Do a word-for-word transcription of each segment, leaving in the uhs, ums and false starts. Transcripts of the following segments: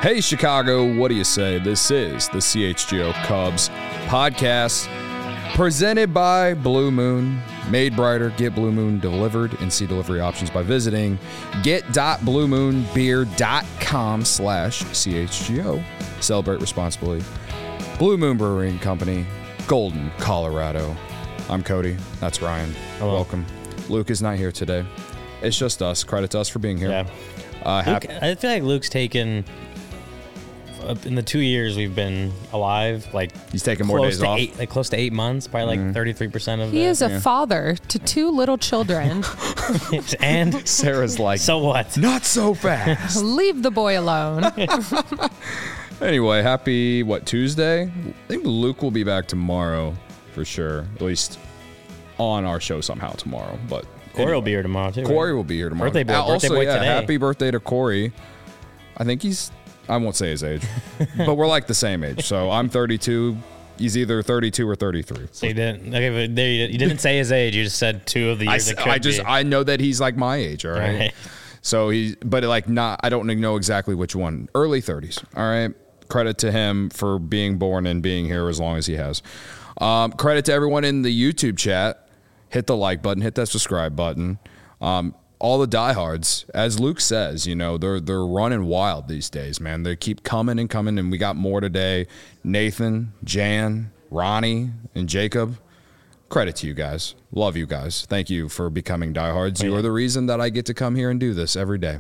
Hey, Chicago, what do you say? This is the C H G O Cubs podcast presented by Blue Moon. Made brighter, get Blue Moon delivered and see delivery options by visiting get.bluemoonbeer.com slash CHGO. Celebrate responsibly. Blue Moon Brewing Company, Golden, Colorado. I'm Cody. That's Ryan. Hello. Welcome. Luke is not here today. It's just us. Credit to us for being here. Yeah. Uh, Luke, hap- I feel like Luke's taken, uh, in the two years we've been alive, like He's taking more close days to off. eight, like close to eight months, probably like thirty-three percent of He the, is a Yeah. father to two little children. and Sarah's like, so what? not so fast. Leave the boy alone. Anyway, happy, what, Tuesday? I think Luke will be back tomorrow for sure. At least on our show somehow tomorrow. But Corey will be here tomorrow too. Corey right? will be here tomorrow. Birthday boy, Uh, birthday also, boy yeah, today. happy birthday to Corey. I think he's, I won't say his age, but we're like the same age. So I'm thirty-two. He's either thirty-two or thirty-three. So you didn't. Okay, but there you, you didn't say his age. You just said two of the I, years. s- it could I just, be. I know that he's like my age, all right? All right. So he, but like not, I don't know exactly which one. Early thirties, all right? Credit to him for being born and being here as long as he has. Um, credit to everyone in the YouTube chat. Hit the like button, hit that subscribe button. Um, all the diehards, as Luke says, you know, they're they're running wild these days, man. They keep coming and coming, and we got more today. Nathan, Jan, Ronnie, and Jacob. Credit to you guys. Love you guys. Thank you for becoming diehards. You are the reason that I get to come here and do this every day.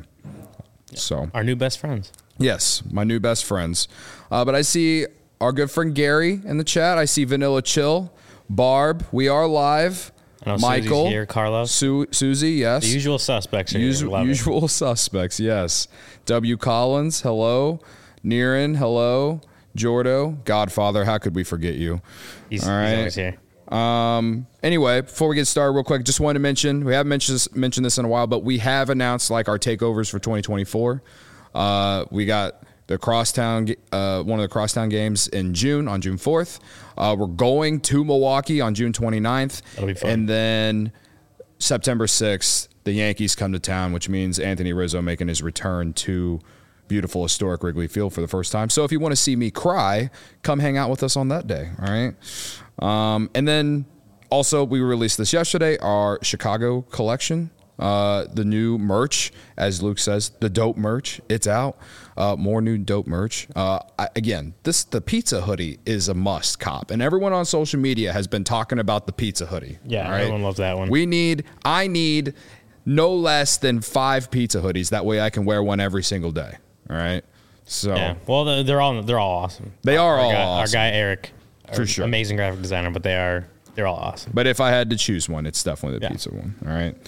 So, Our new best friends. yes, my new best friends. Uh, but I see our good friend Gary in the chat. I see Vanilla Chill, Barb. We are live. I know Michael, Susie's here, Carlos. Su- Susie, yes. The usual suspects are Usu- here. Love it. usual suspects, yes. W. Collins, hello. Niren, hello. Jordo, Godfather, how could we forget you? He's, All he's right. always here. Um. Anyway, before we get started, real quick, just wanted to mention we haven't mentioned this, mentioned this in a while, but we have announced like our takeovers for twenty twenty-four. Uh, we got the Crosstown, uh, one of the Crosstown games in June on June fourth. Uh, we're going to Milwaukee on June twenty-ninth. That'll be fun. And then September sixth, the Yankees come to town, which means Anthony Rizzo making his return to beautiful, historic Wrigley Field for the first time. So if you want to see me cry, come hang out with us on that day. All right. Um, and then also we released this yesterday, our Chicago collection, uh, the new merch, as Luke says, the dope merch. It's out. Uh, more new dope merch. Uh, I, again, this the pizza hoodie is a must cop, and everyone on social media has been talking about the pizza hoodie. Yeah, all right? everyone loves that one. We need, I need no less than five pizza hoodies. That way I can wear one every single day. All right. So Yeah. Well, they're they're all they're all awesome. They are our all guy, awesome. Our guy Eric, For our sure. amazing graphic designer, but they are they're all awesome. But if I had to choose one, it's definitely the Yeah. pizza one. All right.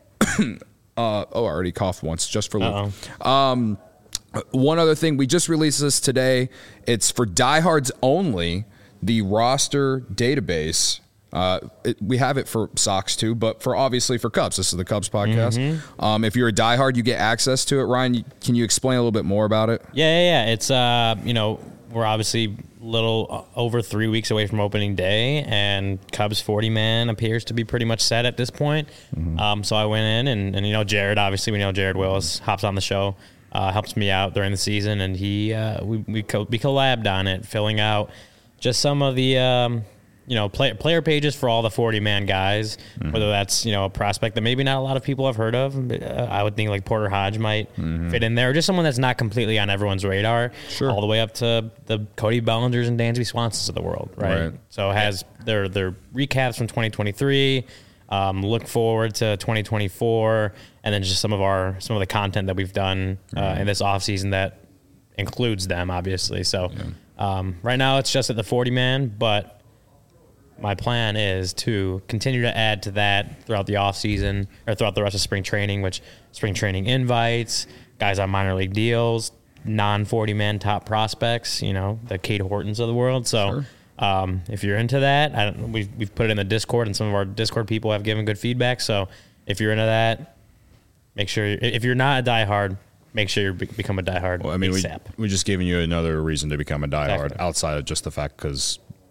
uh, oh, I already coughed once just for Luke. Uh-oh. One other thing, we just released this today. It's for diehards only, the roster database. Uh, it, we have it for Sox too, but for obviously for Cubs. This is the Cubs podcast. Mm-hmm. Um, if you're a diehard, you get access to it. Ryan, you, can you explain a little bit more about it? Yeah, yeah, yeah. It's uh, you know, we're obviously a little uh, over three weeks away from opening day, and Cubs forty man appears to be pretty much set at this point. Mm-hmm. Um, so I went in, and, and you know, Jared, obviously we know Jared Willis hops on the show, uh, helps me out during the season, and he uh, we we, co- we collabed on it, filling out just some of the um, you know, play, player pages for all the forty man guys, mm-hmm. whether that's, you know, a prospect that maybe not a lot of people have heard of. But, uh, I would think like Porter Hodge might mm-hmm. fit in there, or just someone that's not completely on everyone's radar, Sure. all the way up to the Cody Bellingers and Dansby Swansons of the world, right? Right. So it has their, their recaps from twenty twenty-three, um, look forward to twenty twenty-four, and then just some of our, some of the content that we've done uh, Right. in this offseason that includes them, obviously. So um, right now it's just at the forty man, but my plan is to continue to add to that throughout the offseason or throughout the rest of spring training, which spring training invites, guys on minor league deals, non forty man top prospects, you know, the Cade Hortons of the world. So Sure. um, if you're into that, I don't, we've, we've put it in the Discord, and some of our Discord people have given good feedback. So if you're into that, make sure, if you're not a diehard, make sure you be- become a diehard Well, I mean, we, ASAP. we just giving you another reason to become a diehard Exactly. outside of just the fact because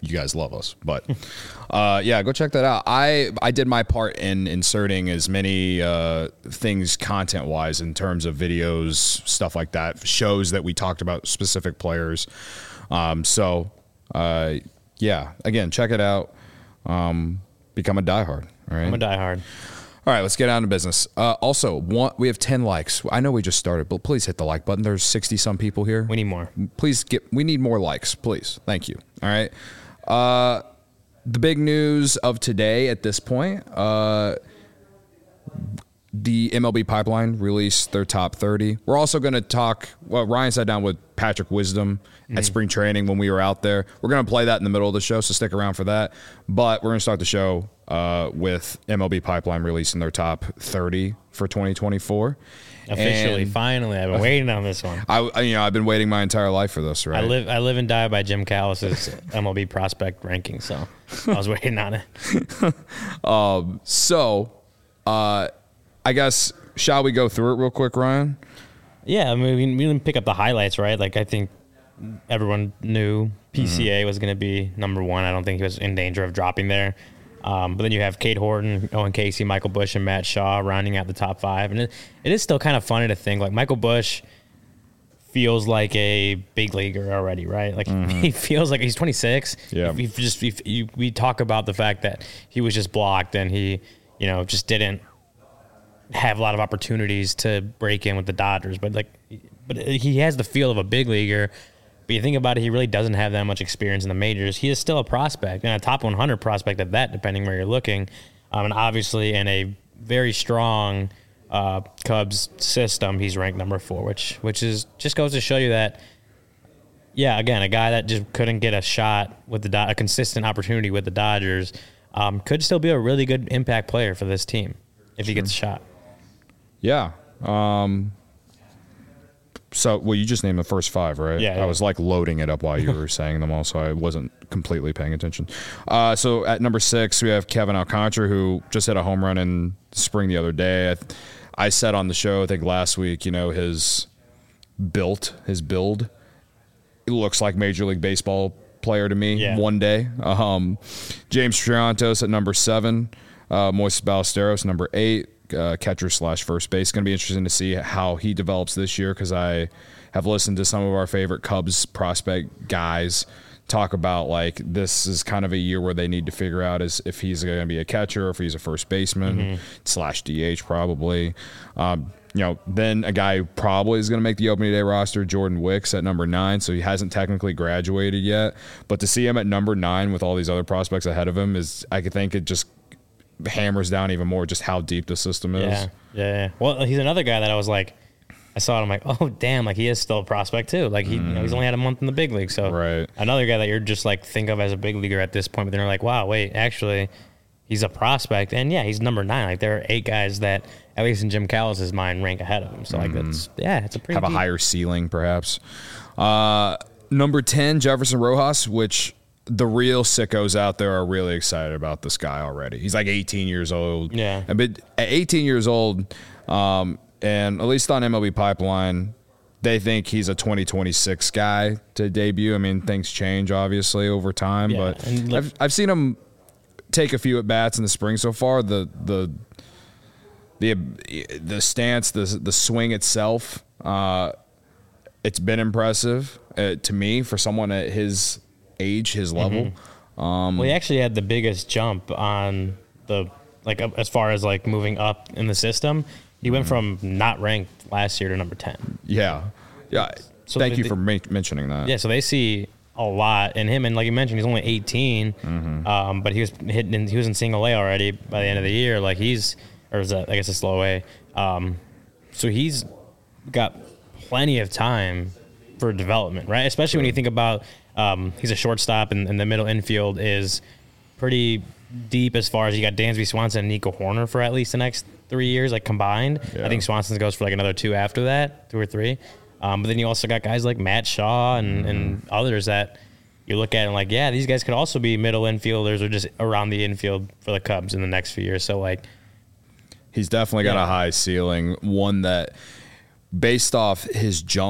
you guys love us. But uh, yeah, go check that out. I I did my part in inserting as many uh, things content wise in terms of videos, stuff like that, shows that we talked about specific players. Um, so uh, yeah, again, check it out. Um, become a diehard. All right. I'm a diehard. All right, let's get down to business. Uh, also, one, we have ten likes. I know we just started, but please hit the like button. There's sixty some people here. We need more. Please get. We need more likes, please. Thank you. All right. Uh, the big news of today at this point, uh, the M L B Pipeline released their top thirty. We're also going to talk. Well, Ryan sat down with Patrick Wisdom mm-hmm. at spring training when we were out there. We're going to play that in the middle of the show, so stick around for that. But we're going to start the show uh, with M L B Pipeline releasing their top thirty for twenty twenty-four. Officially, and finally, I've been waiting on this one. I, I, you know, I've been waiting my entire life for this. Right? I live, I live and die by Jim Callis's M L B prospect ranking, so I was waiting on it. um, so, uh, I guess shall we go through it real quick, Ryan? Yeah, I mean, we we didn't pick up the highlights, right? Like, I think everyone knew P C A mm-hmm. was going to be number one. I don't think he was in danger of dropping there. Um, but then you have Cade Horton, Owen Casey, Michael Busch, and Matt Shaw rounding out the top five. And it, it is still kind of funny to think, like, Michael Busch feels like a big leaguer already, right? Like, mm-hmm. he feels like he's twenty-six. Yeah. If, if just if you, we talk about the fact that he was just blocked and he, you know, just didn't have a lot of opportunities to break in with the Dodgers. But, like, but he has the feel of a big leaguer. But you think about it, he really doesn't have that much experience in the majors. He is still a prospect, and a top one hundred prospect at that, depending where you're looking. Um, and obviously, in a very strong uh, Cubs system, he's ranked number four, which which is just goes to show you that, yeah, again, a guy that just couldn't get a shot with the Do- a consistent opportunity with the Dodgers um, could still be a really good impact player for this team if he gets a shot. Yeah. Um So, well, you just named the first five, right? Yeah. yeah. I was like loading it up while you were saying them all, so I wasn't completely paying attention. Uh, so at number six, we have Kevin Alcantara, who just hit a home run in spring the other day. I, I said on the show, I think last week, you know, his built, his build, it looks like Major League Baseball player to me yeah. one day. Um, James Triantos at number seven, uh, Moises Ballesteros number eight. Uh, catcher slash first base. Going to be interesting to see how he develops this year because I have listened to some of our favorite Cubs prospect guys talk about like this is kind of a year where they need to figure out is if he's going to be a catcher or if he's a first baseman mm-hmm. slash D H probably. Um, you know, then a guy who probably is going to make the opening day roster, Jordan Wicks at number nine. So he hasn't technically graduated yet, but to see him at number nine with all these other prospects ahead of him is, I could think it just hammers down even more just how deep the system is. Yeah, yeah, yeah. Well, he's another guy that I was like, I saw it, I'm like, oh, damn, like he is still a prospect too. Like he, mm. you know, he's only had a month in the big league. So right. another guy that you're just like think of as a big leaguer at this point, but then you're like, wow, wait, actually he's a prospect. And yeah, he's number nine. Like there are eight guys that, at least in Jim Callis's mind, rank ahead of him. So like mm. that's, yeah, it's a pretty Have deep. a higher ceiling perhaps. Uh, number ten, Jefferson Rojas, which the real sickos out there are really excited about this guy already. He's like eighteen years old. Yeah. But at eighteen years old, um, and at least on M L B Pipeline, they think he's a twenty twenty-six guy to debut. I mean, things change obviously over time, yeah. but and I've I've seen him take a few at bats in the spring so far. The the the the stance, the the swing itself, uh, it's been impressive uh, to me for someone at his age, his level. Mm-hmm. Um, well, he actually had the biggest jump on the like as far as like moving up in the system. He went mm-hmm. from not ranked last year to number ten. Yeah, yeah. So Thank they, you for ma- mentioning that. Yeah, so they see a lot in him, and like you mentioned, he's only eighteen, mm-hmm. um, but he was hitting. In, he was in single A already by the end of the year. Like he's, or is that I guess it's low A. Um, so he's got plenty of time for development, right? Especially sure. when you think about. Um, he's a shortstop, and, and the middle infield is pretty deep as far as you got Dansby Swanson and Nico Horner for at least the next three years, like combined. Yeah. I think Swanson goes for like another two after that, two or three. Um, but then you also got guys like Matt Shaw and, mm. and others that you look at and like, yeah, these guys could also be middle infielders or just around the infield for the Cubs in the next few years. So like, he's definitely got yeah. a high ceiling, one that based off his jump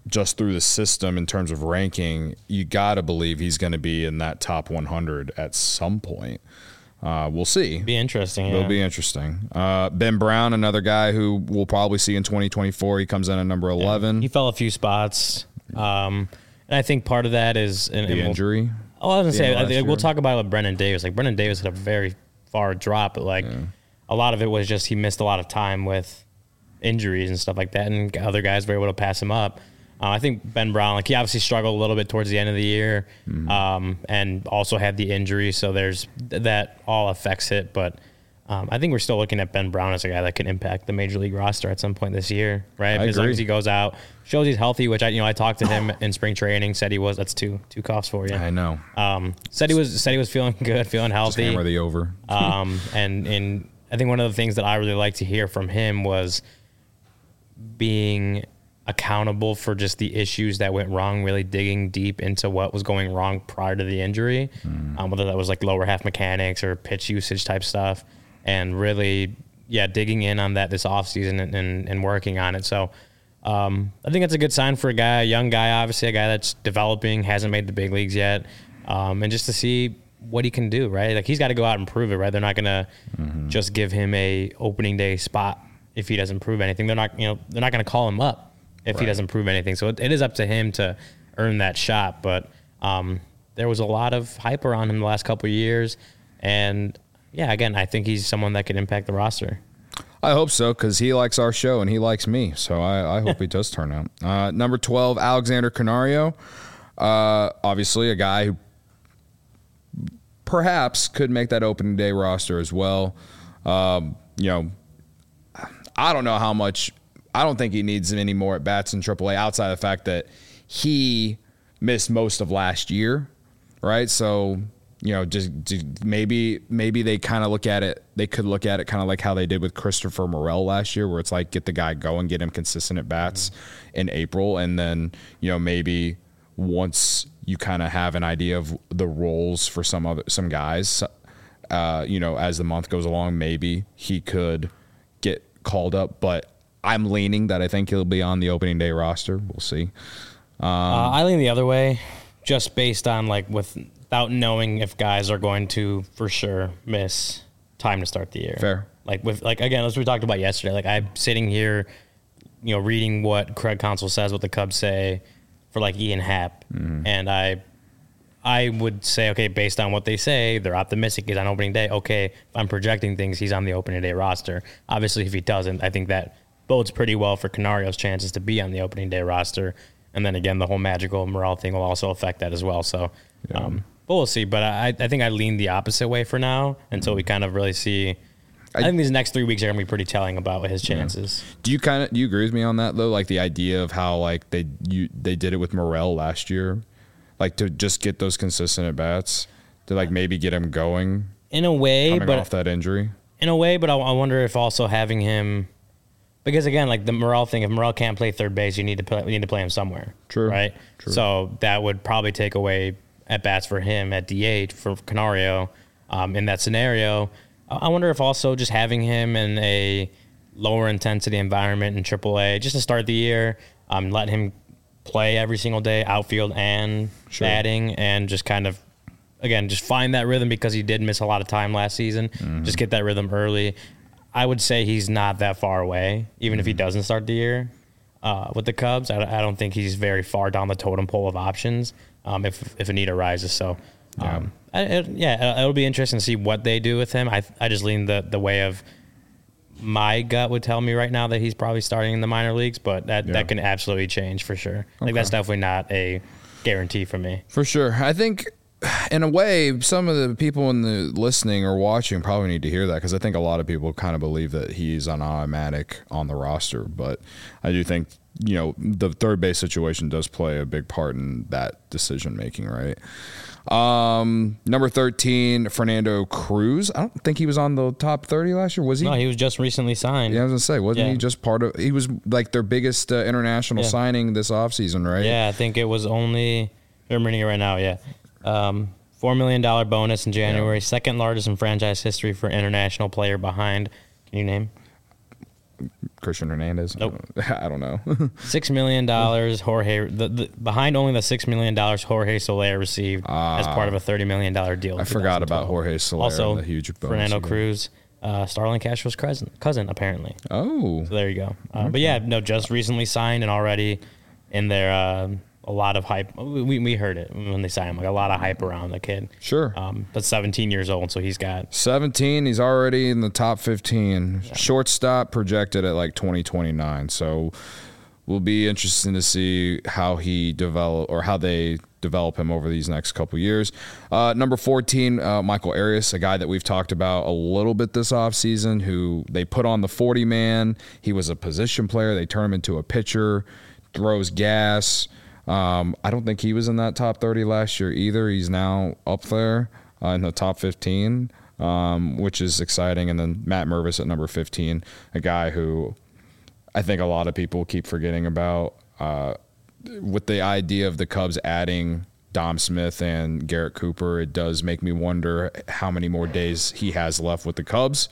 just through the system in terms of ranking, you got to believe he's going to be in that top one hundred at some point. Uh, we'll see. Be interesting. Yeah. It'll be interesting. Uh, Ben Brown, another guy who we'll probably see in twenty twenty-four. He comes in at number eleven. Yeah. He fell a few spots. Um, and I think part of that is and, the and we'll, injury. Oh, I was going to say, I think year. we'll talk about it with Brennan Davis. Like, Brennan Davis had a very far drop, but, like, yeah. a lot of it was just he missed a lot of time with injuries and stuff like that, and other guys were able to pass him up. Uh, I think Ben Brown, like, he obviously struggled a little bit towards the end of the year, mm-hmm. um, and also had the injury, so there's that all affects it. But um, I think we're still looking at Ben Brown as a guy that can impact the major league roster at some point this year, right? I As agree. long as he goes out, shows he's healthy, which I, you know, I talked to him in spring training, said he was. That's two two coughs for you. I know. Um, said he was said he was feeling good, feeling healthy. Just hammer the over. um, and and I think one of the things that I really like to hear from him was being accountable for just the issues that went wrong, really digging deep into what was going wrong prior to the injury, mm. um, whether that was like lower half mechanics or pitch usage type stuff, and really, yeah, digging in on that this offseason and, and, and working on it. So um, I think that's a good sign for a guy, a young guy, obviously, a guy that's developing, hasn't made the big leagues yet, um, and just to see what he can do, right? Like, he's got to go out and prove it, right? They're not going to mm-hmm. just give him a opening day spot if he doesn't prove anything. They're not, you know, they're not going to call him up if right. he doesn't prove anything. So it, it is up to him to earn that shot. But um, there was a lot of hype around him the last couple of years. And, yeah, again, I think he's someone that could impact the roster. I hope so, because he likes our show and he likes me. So I, I hope he does turn out. Uh, number twelve, Alexander Canario. Uh, obviously a guy who perhaps could make that opening day roster as well. Um, you know, I don't know how much – I don't think he needs any more at bats in triple A outside of the fact that he missed most of last year, right? So, you know, just, just maybe maybe they kind of look at it. They could look at it kind of like how they did with Christopher Morel last year, where it's like get the guy going, get him consistent at bats mm-hmm. in April, and then you know maybe once you kind of have an idea of the roles for some other some guys, uh, you know, as the month goes along, maybe he could get called up, but I'm leaning that I think he'll be on the opening day roster. We'll see. Um, uh, I lean the other way, just based on like without knowing if guys are going to for sure miss time to start the year. Fair. Like with like again, as we talked about yesterday. Like I'm sitting here, you know, reading what Craig Counsell says, what the Cubs say for like Ian Happ, mm-hmm. and I, I would say okay, based on what they say, they're optimistic he's on opening day. Okay, if I'm projecting things, he's on the opening day roster. Obviously, if he doesn't, I think that bodes pretty well for Canario's chances to be on the opening day roster. And then again, the whole Magical Morel thing will also affect that as well. So, yeah. um, but we'll see. But I, I think I lean the opposite way for now until we kind of really see. I, I think these next three weeks are going to be pretty telling about his chances. Yeah. Do you kind of do you agree with me on that though? Like the idea of how like they you they did it with Morel last year, like to just get those consistent at bats to like maybe get him going in a way, coming but off that injury. In a way, but I, I wonder if also having him. Because again, like the Morel thing, if Morel can't play third base, you need to play, you need to play him somewhere. True. Right. True. So that would probably take away at bats for him at D H for Canario. Um, in that scenario, I wonder if also just having him in a lower intensity environment in triple A just to start the year, um, let him play every single day, outfield and sure. batting, and just kind of again just find that rhythm because he did miss a lot of time last season. Mm-hmm. Just get that rhythm early. I would say he's not that far away, even mm-hmm. if he doesn't start the year uh, with the Cubs. I, I don't think he's very far down the totem pole of options um, if if a need arises. So, um, yeah, I, it, yeah, it'll be interesting to see what they do with him. I I just lean the, the way of my gut would tell me right now that he's probably starting in the minor leagues, but that, yeah. that can absolutely change for sure. Like okay. that's definitely not a guarantee for me. For sure. I think in a way, some of the people in the listening or watching probably need to hear that because I think a lot of people kind of believe that he's on automatic on the roster. But I do think, you know, the third base situation does play a big part in that decision making, right? Um, number thirteen, Fernando Cruz. I don't think he was on the top thirty last year. Was he? No, he was just recently signed. Yeah, I was going to say, wasn't yeah. he just part of – he was like their biggest uh, international yeah. signing this offseason, right? Yeah, I think it was only – I'm reading it right now, yeah. Um, four million dollars bonus in January, yeah. second largest in franchise history for international player behind. Can you name? Christian Hernandez. Nope. I don't know. Six million dollars. Jorge the, the behind only the six million dollars Jorge Soler received uh, as part of a thirty million dollar deal. I forgot about Jorge Soler. Also, and the huge bonus Fernando again. Cruz, uh, Starlin Castro's cousin, cousin apparently. Oh, So there you go. Uh, But yeah, no, just recently signed and already in there. Uh, a lot of hype. We we heard it when they signed him. Like a lot of hype around the kid. sure. Um, but seventeen years old, so he's got. seventeen. He's already in the top fifteen. Yeah. Shortstop projected at like twenty twenty-nine. So will be interesting to see how he develop or how they develop him over these next couple years. Uh, number fourteen, uh, Michael Arias, a guy that we've talked about a little bit this offseason, who they put on the forty man. He was a position player. They turn him into a pitcher, throws gas. Um, I don't think he was in that top thirty last year either. He's now up there uh, in the top fifteen, um, which is exciting. And then Matt Mervis at number fifteen, a guy who I think a lot of people keep forgetting about. Uh, with the idea of the Cubs adding Dom Smith and Garrett Cooper, it does make me wonder how many more days he has left with the Cubs.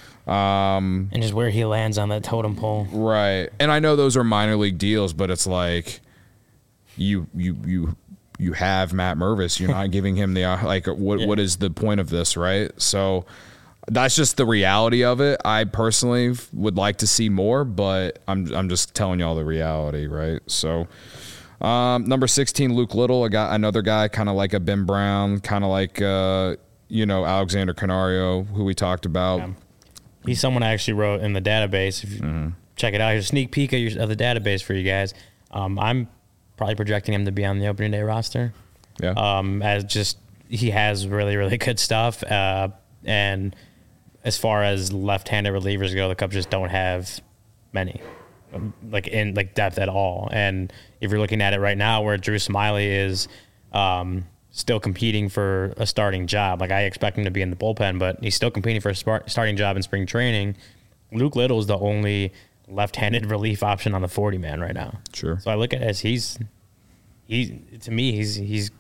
Um, and just where he lands on that totem pole. Right. And I know those are minor league deals, but it's like you you you you have Matt Mervis. You're not giving him the like what yeah. what is the point of this, right? So that's just the reality of it. I personally would like to see more, but I'm I'm just telling y'all the reality, right? So um, number sixteen, Luke Little, a guy, another guy kind of like a Ben Brown, kind of like uh, you know, Alexander Canario, who we talked about. Yeah. He's someone I actually wrote in the database. If you mm-hmm. check it out, here's a sneak peek of, your, of the database for you guys. Um, I'm probably projecting him to be on the opening day roster. Yeah. Um, as just he has really really good stuff, uh, and as far as left-handed relievers go, the Cubs just don't have many, like in like depth at all. And if you're looking at it right now, where Drew Smiley is um, still competing for a starting job, like I expect him to be in the bullpen, but he's still competing for a start, starting job in spring training. Luke Little is the only left-handed relief option on the forty man right now. Sure. So I look at it as he's he to me he's he's.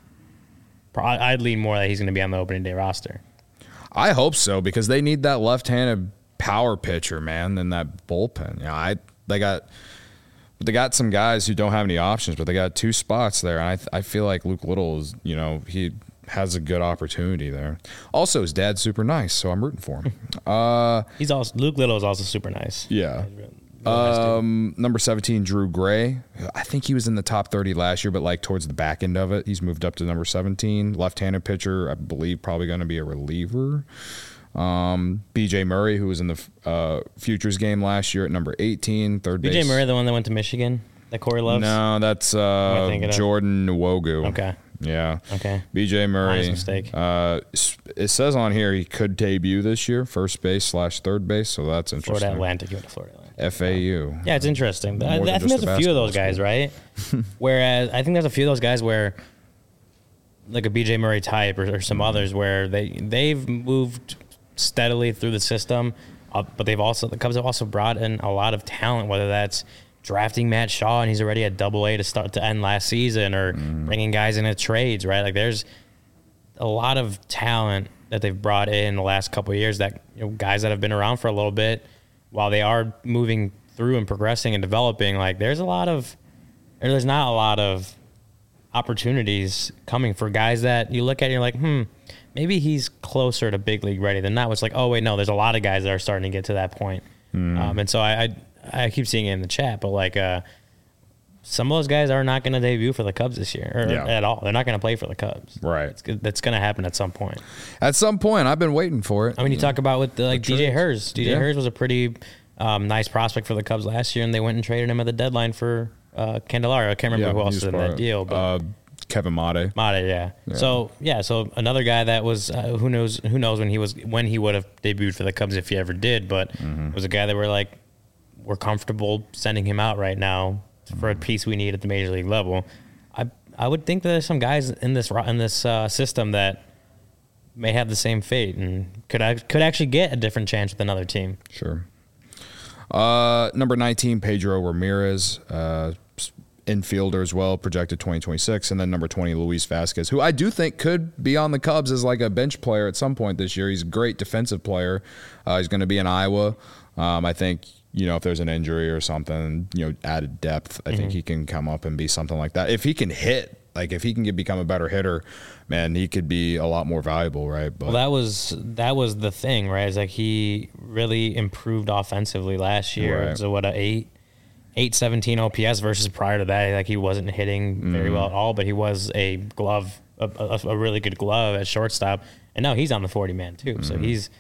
I'd lean more that he's going to be on the opening day roster. I hope so, because they need that left-handed power pitcher, man, in that bullpen. Yeah, I they got they got some guys who don't have any options, but they got two spots there, and I I feel like Luke Little is, you know, he has a good opportunity there. Also, his dad's super nice, so I'm rooting for him. uh, He's also Luke Little is also super nice. Yeah. Really, really nice um, number seventeen, Drew Gray. I think he was in the top thirty last year, but like towards the back end of it, he's moved up to number seventeen. Left-handed pitcher, I believe, probably going to be a reliever. Um, B J Murray, who was in the uh, Futures game last year at number eighteen, third base. B J Murray, the one that went to Michigan, that Corey loves? No, that's uh, Jordan Nwogu. Okay. Yeah. Okay. B J Murray. Honest mistake. Uh, it says on here he could debut this year, first base slash third base, so that's interesting. Florida Atlantic, you went to Florida Atlantic. F A U. Yeah, it's interesting. I, I think just there's a a few of those basketball guys, right? Whereas I think there's a few of those guys where, like a B J Murray type or, or some others, where they they've moved steadily through the system, uh, but they've also the Cubs have also brought in a lot of talent, whether that's drafting Matt Shaw and he's already at Double A to start to end last season, or mm. bringing guys into trades, right? Like there's a lot of talent that they've brought in the last couple of years, that, you know, guys that have been around for a little bit, while they are moving through and progressing and developing. Like there's a lot of, or there's not a lot of opportunities coming for guys that you look at and you're like, hmm, maybe he's closer to big league ready than not. It's like, oh wait, no, there's a lot of guys that are starting to get to that point. Mm. Um, and so I, I, I keep seeing it in the chat, but like, uh, some of those guys are not going to debut for the Cubs this year, or yeah. at all. They're not going to play for the Cubs. Right. It's, that's going to happen at some point. At some point. I've been waiting for it. I mean, you talk about with the, like the D J Hurst. D J yeah. Hurst was a pretty um, nice prospect for the Cubs last year, and they went and traded him at the deadline for uh, Candelario. I can't remember yeah, who else was in that deal. But uh, Kevin Mate. Mate, yeah. yeah. So yeah, so another guy that was uh, who knows who knows when he was when he would have debuted for the Cubs if he ever did, but mm-hmm. it was a guy that we're like we're comfortable sending him out right now for a piece we need at the major league level. I I would think that there's some guys in this in this uh, system that may have the same fate and could could actually get a different chance with another team. Sure. Uh, number nineteen, Pedro Ramirez, uh, infielder as well, projected twenty twenty-six, and then number twenty, Luis Vasquez, who I do think could be on the Cubs as like a bench player at some point this year. He's a great defensive player. Uh, he's going to be in Iowa. Um, I think you know, if there's an injury or something, you know, added depth, I mm-hmm. think he can come up and be something like that. If he can hit, like if he can get, become a better hitter, man, he could be a lot more valuable, right? But well, that was that was the thing, right? It's like he really improved offensively last year. Right. So what a eight, eight seventeen O P S versus prior to that, like he wasn't hitting very mm. well at all, but he was a glove, a, a, a really good glove at shortstop, and now he's on the forty man too. Mm. So he's,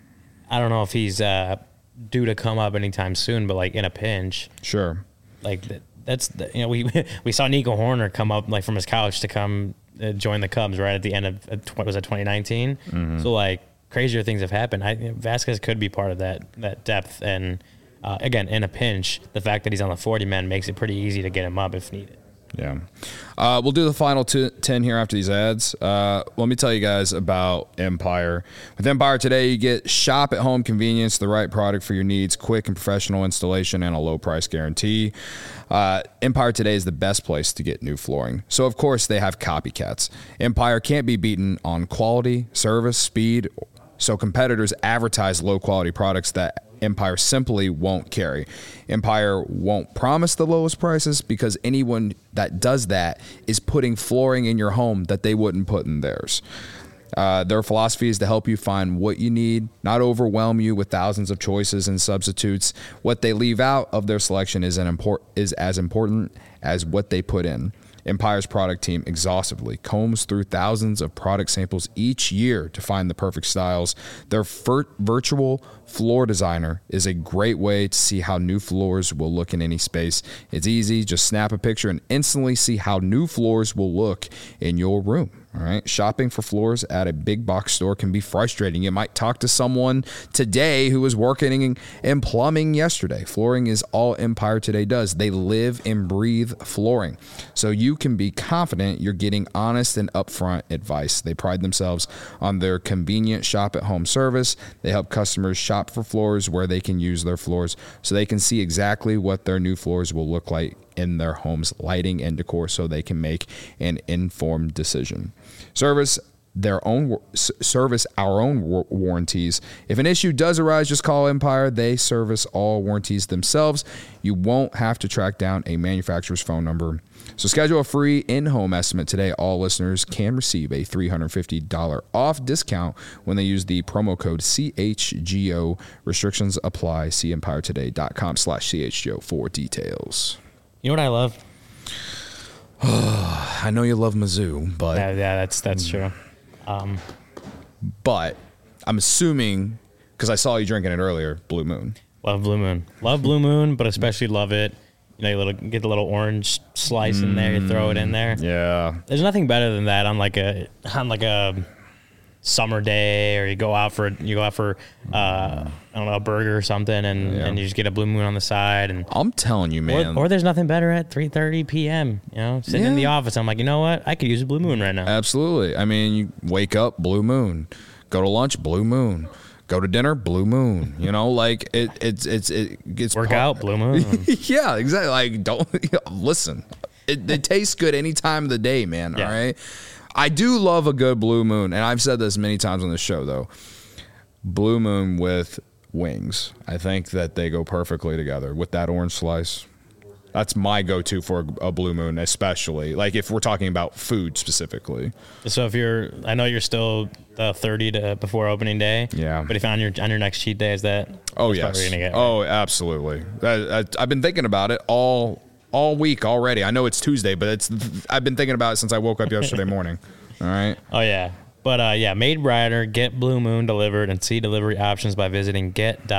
I don't know if he's uh, due to come up anytime soon, but like in a pinch, sure, like. The, That's the, you know we we saw Nico Horner come up like from his couch to come uh, join the Cubs right at the end of uh, what was that twenty nineteen. Mm-hmm. So like crazier things have happened. I, you know, Vasquez could be part of that that depth, and uh, again in a pinch, the fact that he's on the forty man makes it pretty easy to get him up if needed. Yeah. Uh, we'll do the final two, ten here after these ads. Uh, let me tell you guys about Empire. With Empire today, you get shop at home convenience, the right product for your needs, quick and professional installation, and a low price guarantee. Uh, Empire today is the best place to get new flooring. So, of course, they have copycats. Empire can't be beaten on quality, service, speed. So competitors advertise low quality products that Empire simply won't carry. Empire won't promise the lowest prices because anyone that does that is putting flooring in your home that they wouldn't put in theirs. Uh, their philosophy is to help you find what you need, not overwhelm you with thousands of choices and substitutes. What they leave out of their selection is an import is as important as what they put in. Empire's product team exhaustively combs through thousands of product samples each year to find the perfect styles. Their vir- virtual floor designer is a great way to see how new floors will look in any space. It's easy. Just snap a picture and instantly see how new floors will look in your room. All right. Shopping for floors at a big box store can be frustrating. You might talk to someone today who was working in plumbing yesterday. Flooring is all Empire today does. They live and breathe flooring. So you can be confident you're getting honest and upfront advice. They pride themselves on their convenient shop at home service. They help customers shop for floors where they can use their floors so they can see exactly what their new floors will look like in their home's lighting and decor so they can make an informed decision. Service their own service our own warranties. If an issue does arise, just call Empire. They service all warranties themselves. You won't have to track down a manufacturer's phone number. So schedule a free in-home estimate today. All listeners can receive a three hundred fifty dollars off discount when they use the promo code C H G O. Restrictions apply. See empiretoday.com slash CHGO for details. You know what I love? I know you love Mizzou, but yeah, yeah that's that's true. Um, but I'm assuming because I saw you drinking it earlier, Blue Moon. Love Blue Moon. Love Blue Moon, but especially love it. You know, you little get the little orange slice mm, in there, you throw it in there. Yeah. There's nothing better than that on like a on like a summer day, or you go out for you go out for uh, I don't know, a burger or something, and, yeah. and you just get a Blue Moon on the side. And I'm telling you, man. Or, or there's nothing better at three thirty p.m. You know, sitting yeah. in the office, I'm like, you know what? I could use a Blue Moon right now. Absolutely. I mean, you wake up, Blue Moon. Go to lunch, Blue Moon. Go to dinner, Blue Moon. You know, like it, it's it's it gets work part- out, Blue Moon. Yeah, exactly. Like don't listen. It, it tastes good any time of the day, man. Yeah. All right. I do love a good Blue Moon, and I've said this many times on the show though. Blue Moon with wings, I think that they go perfectly together with that orange slice. That's my go-to for a Blue Moon, especially like if we're talking about food specifically. So if you're, I know you're still uh, thirty to before opening day. Yeah. But if on your on your next cheat day, is that? Oh yes. Gonna get, right? Oh, absolutely. I, I, I've been thinking about it all all week already. I know it's Tuesday, but it's I've been thinking about it since I woke up yesterday morning. All right. Oh yeah. But uh, yeah, made brighter. Get Blue Moon delivered and see delivery options by visiting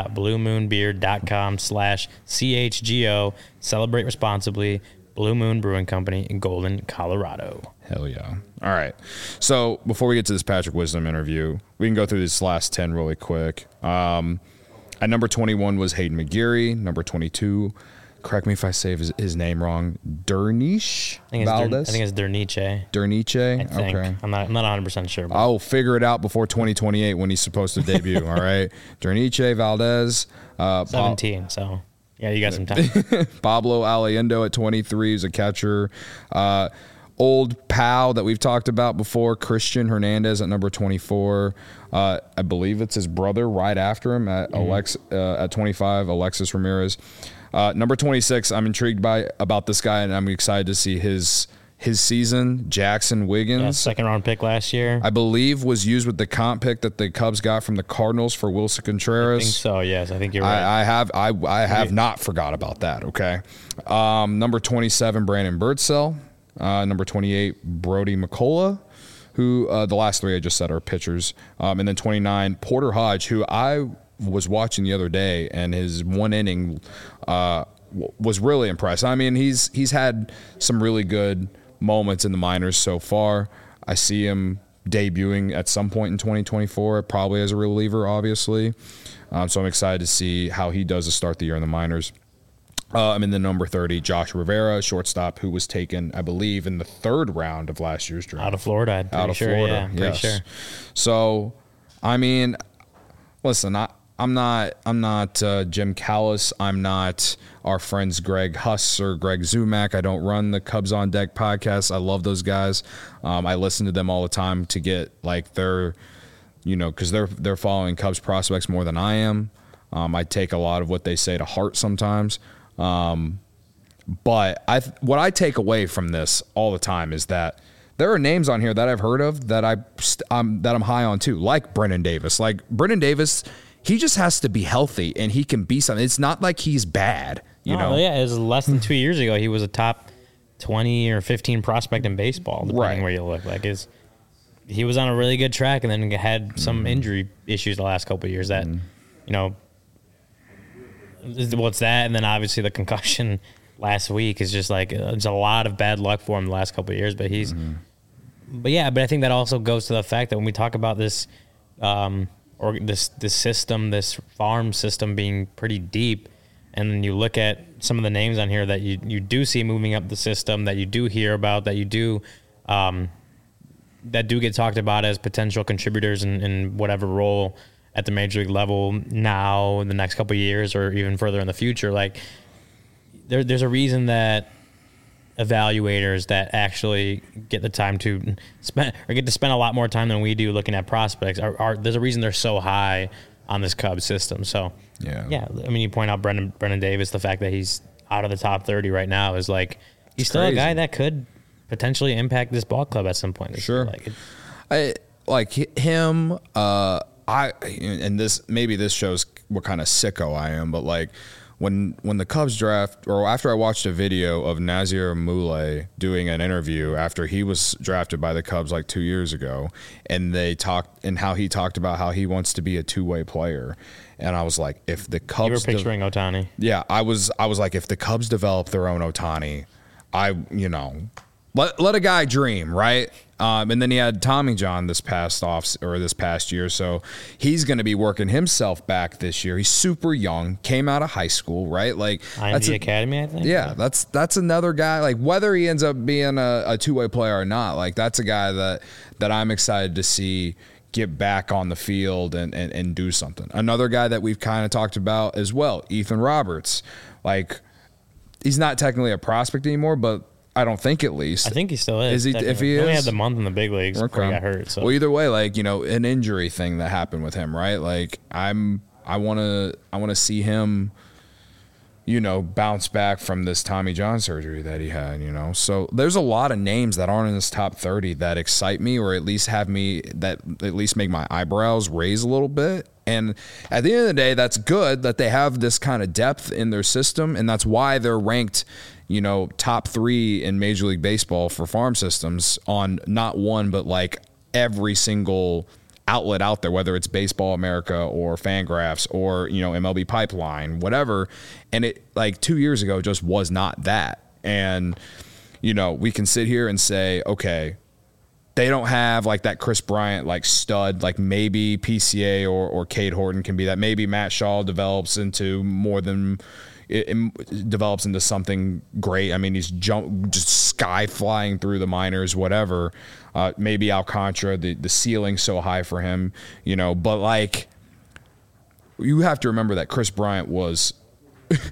get.bluemoonbeer.com slash CHGO. Celebrate responsibly. Blue Moon Brewing Company in Golden, Colorado. Hell yeah. All right. So before we get to this Patrick Wisdom interview, we can go through this last ten really quick. Um, at number twenty-one was Hayden McGeary. Number twenty-two, correct me if I say his, his name wrong, Derniche Valdez? I think it's Derniche. Derniche? I think. Okay. I'm not, I'm not one hundred percent sure. But. I'll figure it out before twenty twenty-eight when he's supposed to debut, all right? Derniche Valdez. Uh, seventeen, pa- so yeah, you got some time. Pablo Aliendo at twenty-three is a catcher. Uh, old pal that we've talked about before, Christian Hernandez at number twenty-four. Uh, I believe it's his brother right after him at mm-hmm. Alex uh, at twenty-five, Alexis Ramirez. Uh, number twenty-six, I'm intrigued by about this guy, and I'm excited to see his his season. Jackson Wiggins, yeah, second round pick last year, I believe, was used with the comp pick that the Cubs got from the Cardinals for Wilson Contreras. I think so. Yes, I think you're right. I, I have I I have not forgot about that. Okay, um, number twenty-seven, Brandon Birdsell. Uh, number twenty-eight, Brody McCullough, who uh, the last three I just said are pitchers. Um, and then twenty-nine, Porter Hodge, who I was watching the other day, and his one inning uh, w- was really impressive. I mean, he's he's had some really good moments in the minors so far. I see him debuting at some point in twenty twenty-four, probably as a reliever, obviously. Um, so I'm excited to see how he does to start the year in the minors. Uh, I'm in the number thirty, Josh Rivera, shortstop, who was taken, I believe, in the third round of last year's draft. Out of Florida, I'm pretty Out of sure. Florida, Yeah, pretty yes. sure. So, I mean, listen, I, I'm not, I'm not uh, Jim Callis. I'm not our friends Greg Huss or Greg Zumack. I don't run the Cubs on Deck podcast. I love those guys. Um, I listen to them all the time to get like their, you know, because they're they're following Cubs prospects more than I am. Um, I take a lot of what they say to heart sometimes. Um, but I, what I take away from this all the time is that there are names on here that I've heard of that I, um, that I'm high on too, like Brennan Davis. Like Brennan Davis, he just has to be healthy and he can be something. It's not like he's bad, you no, know? Yeah, it was less than two years ago. He was a top twenty or fifteen prospect in baseball, depending Right. where you look. Like his, he was on a really good track and then had some mm. injury issues the last couple of years that, mm. you know, what's that? And then obviously the concussion last week is just like, it's a lot of bad luck for him the last couple of years, but he's, mm-hmm. but yeah, but I think that also goes to the fact that when we talk about this, um, or this, this system, this farm system being pretty deep, and then you look at some of the names on here that you, you do see moving up the system, that you do hear about, that you do, um, that do get talked about as potential contributors in, in whatever role at the major league level now, in the next couple of years, or even further in the future. Like there, there's a reason that evaluators that actually get the time to spend or get to spend a lot more time than we do looking at prospects are, are there's a reason they're so high on this Cubs system. So yeah, yeah. I mean, you point out Brendan Brendan Davis, the fact that he's out of the top thirty right now is like he's it's still crazy. a guy that could potentially impact this ball club at some point. This sure, year. Like, it, I like him. Uh, I and this maybe this shows what kind of sicko I am, but like when when the Cubs draft, or after I watched a video of Nazir Moulay doing an interview after he was drafted by the Cubs like two years ago, and they talked and how he talked about how he wants to be a two way player, and I was like, if the Cubs, you were picturing de- Ohtani, yeah, I was I was like, if the Cubs develop their own Ohtani, I you know. Let let a guy dream, right? Um, and then he had Tommy John this past off or this past year, so he's going to be working himself back this year. He's super young, came out of high school, right? Like I M D Academy, I think. Yeah, that's that's another guy. Like whether he ends up being a, a two way player or not, like that's a guy that that I'm excited to see get back on the field and and, and do something. Another guy that we've kind of talked about as well, Ethan Roberts. Like he's not technically a prospect anymore, but I don't think at least. I think he still is. Is he? If he he is, only had the month in the big leagues okay. before he got hurt. So. Well, either way, like you know, an injury thing that happened with him, right? Like I'm, I want to, I want to see him, you know, bounce back from this Tommy John surgery that he had. You know, so there's a lot of names that aren't in this top thirty that excite me, or at least have me that at least make my eyebrows raise a little bit. And at the end of the day, that's good that they have this kind of depth in their system, and that's why they're ranked, you know, top three in Major League Baseball for farm systems on not one, but like every single outlet out there, whether it's Baseball America or Fangraphs or, you know, M L B Pipeline, whatever. And it like two years ago just was not that. And, you know, we can sit here and say, okay, they don't have like that Chris Bryant like stud, like maybe P C A or, or Cade Horton can be that. Maybe Matt Shaw develops into more than it, it develops into something great. I mean, he's jump just sky flying through the minors, whatever. Uh, maybe Alcantara, the the ceiling's so high for him, you know. But like, you have to remember that Chris Bryant was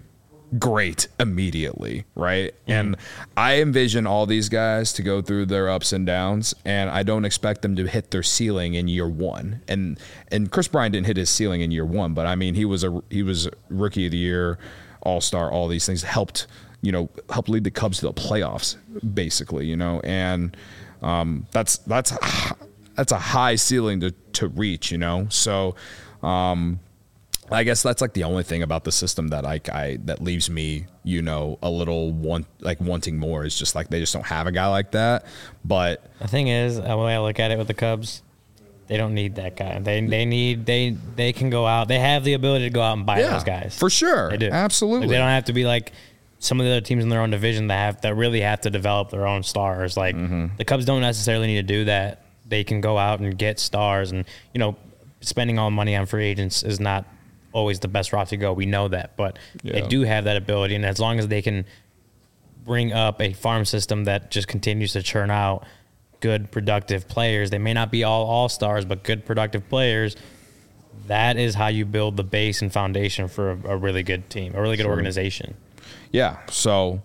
great immediately, right? Mm-hmm. And I envision all these guys to go through their ups and downs, and I don't expect them to hit their ceiling in year one. And and Chris Bryant didn't hit his ceiling in year one, but I mean, he was a he was rookie of the year, all-star, all these things helped, you know, helped lead the Cubs to the playoffs, basically, you know, and um, that's that's that's a high ceiling to to reach, you know. So. Um, I guess that's like the only thing about the system that I, I that leaves me, you know, a little want like wanting more is just like they just don't have a guy like that. But the thing is, the way I look at it with the Cubs, they don't need that guy. They they need they they can go out. They have the ability to go out and buy yeah, those guys for sure. They do. Absolutely. Like, they don't have to be like some of the other teams in their own division that have that really have to develop their own stars. Like mm-hmm. the Cubs don't necessarily need to do that. They can go out and get stars, and you know, spending all money on free agents is not always the best route to go. We know that, but yeah. they do have that ability, and as long as they can bring up a farm system that just continues to churn out good, productive players, they may not be all all-stars, but good, productive players, that is how you build the base and foundation for a, a really good team, a really good sure. organization. Yeah, so,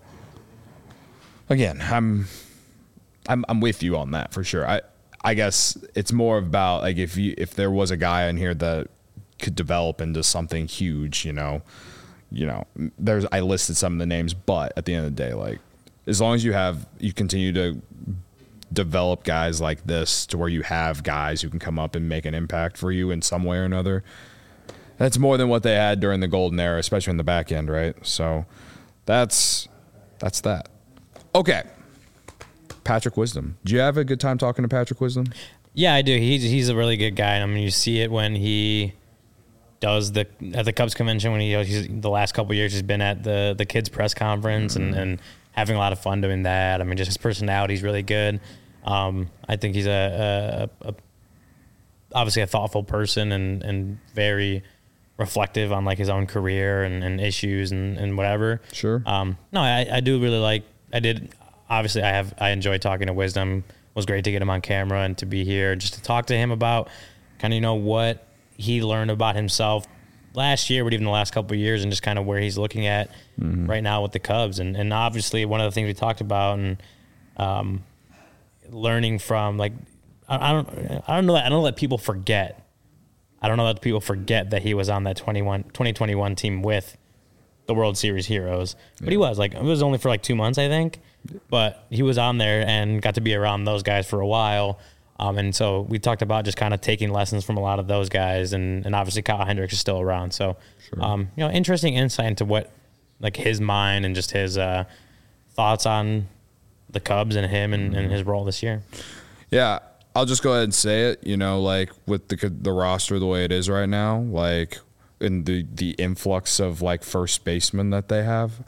again, I'm, I'm I'm with you on that for sure. I I guess it's more about, like, if you if there was a guy in here that could develop into something huge, you know, you know, there's, I listed some of the names, but at the end of the day, like, as long as you have, you continue to develop guys like this to where you have guys who can come up and make an impact for you in some way or another, that's more than what they had during the golden era, especially in the back end, right? So that's, that's that. Okay. Patrick Wisdom. Do you have a good time talking to Patrick Wisdom? Yeah, I do. He's, he's a really good guy. I mean, you see it when he does the at the Cubs convention when he he's, the last couple of years he's been at the the kids press conference mm-hmm. and, and having a lot of fun doing that. I mean, just his personality is really good. Um, I think he's a, a, a obviously a thoughtful person and, and very reflective on like his own career and, and issues and, and whatever. Sure. Um, no, I, I do really like. I did obviously I have I enjoy talking to Wisdom. It was great to get him on camera and to be here just to talk to him about kind of you know what he learned about himself last year, but even the last couple of years, and just kind of where he's looking at mm-hmm. right now with the Cubs. And, and obviously one of the things we talked about and um, learning from, like, I, I don't, I don't know that, I don't let people forget. I don't know that people forget that he was on that twenty-one, twenty twenty-one team with the World Series heroes, but yeah. he was like, it was only for like two months, I think, but he was on there and got to be around those guys for a while. Um, and so we talked about just kind of taking lessons from a lot of those guys, and, and obviously Kyle Hendricks is still around. So, sure. um, you know, interesting insight into what, like his mind and just his uh, thoughts on the Cubs and him and, and his role this year. Yeah, I'll just go ahead and say it. You know, like with the the roster the way it is right now, like in the the influx of like first basemen that they have,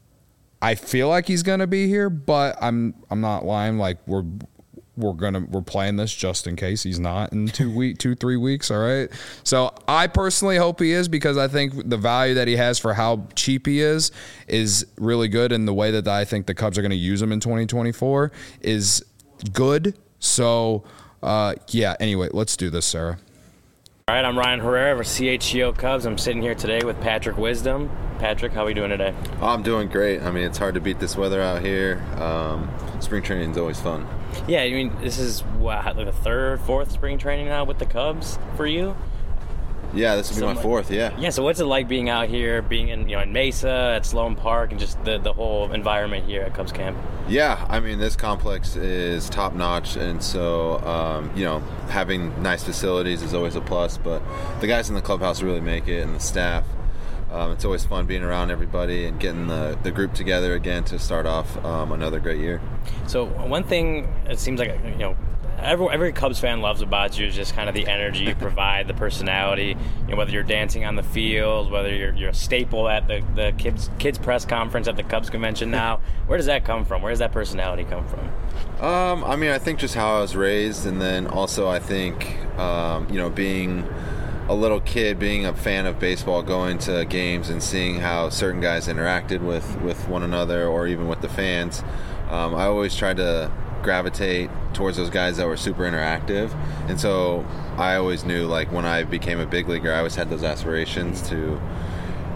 I feel like he's gonna be here, but I'm I'm not lying. Like we're. We're gonna we're playing this just in case he's not in two week two three weeks. All right. So I personally hope he is, because I think the value that he has for how cheap he is is really good, and the way that I think the Cubs are going to use him in twenty twenty-four is good. So uh, yeah. Anyway, let's do this, Sarah. All right, I'm Ryan Herrera of C H G O Cubs. I'm sitting here today with Patrick Wisdom. Patrick, how are we doing today? Oh, I'm doing great. I mean, it's hard to beat this weather out here. Um, spring training is always fun. Yeah, I mean, this is what, like the third, fourth spring training now with the Cubs for you? Yeah, this will be so my fourth, yeah. Yeah, so what's it like being out here, being in, you know, in Mesa, at Sloan Park, and just the, the whole environment here at Cubs camp? Yeah, I mean, this complex is top-notch, and so, um, you know, having nice facilities is always a plus, but the guys in the clubhouse really make it, and the staff. Um, it's always fun being around everybody and getting the, the group together again to start off um, another great year. So one thing it seems like, you know, every, every Cubs fan loves about you is just kind of the energy you provide, the personality. You know, whether you're dancing on the field, whether you're you're a staple at the, the kids kids press conference at the Cubs convention now. Where does that come from? Where does that personality come from? Um, I mean, I think just how I was raised, and then also I think, um, you know, being a little kid, being a fan of baseball, going to games and seeing how certain guys interacted with, with one another or even with the fans. Um, I always tried to gravitate towards those guys that were super interactive. And so I always knew, like, when I became a big leaguer, I always had those aspirations to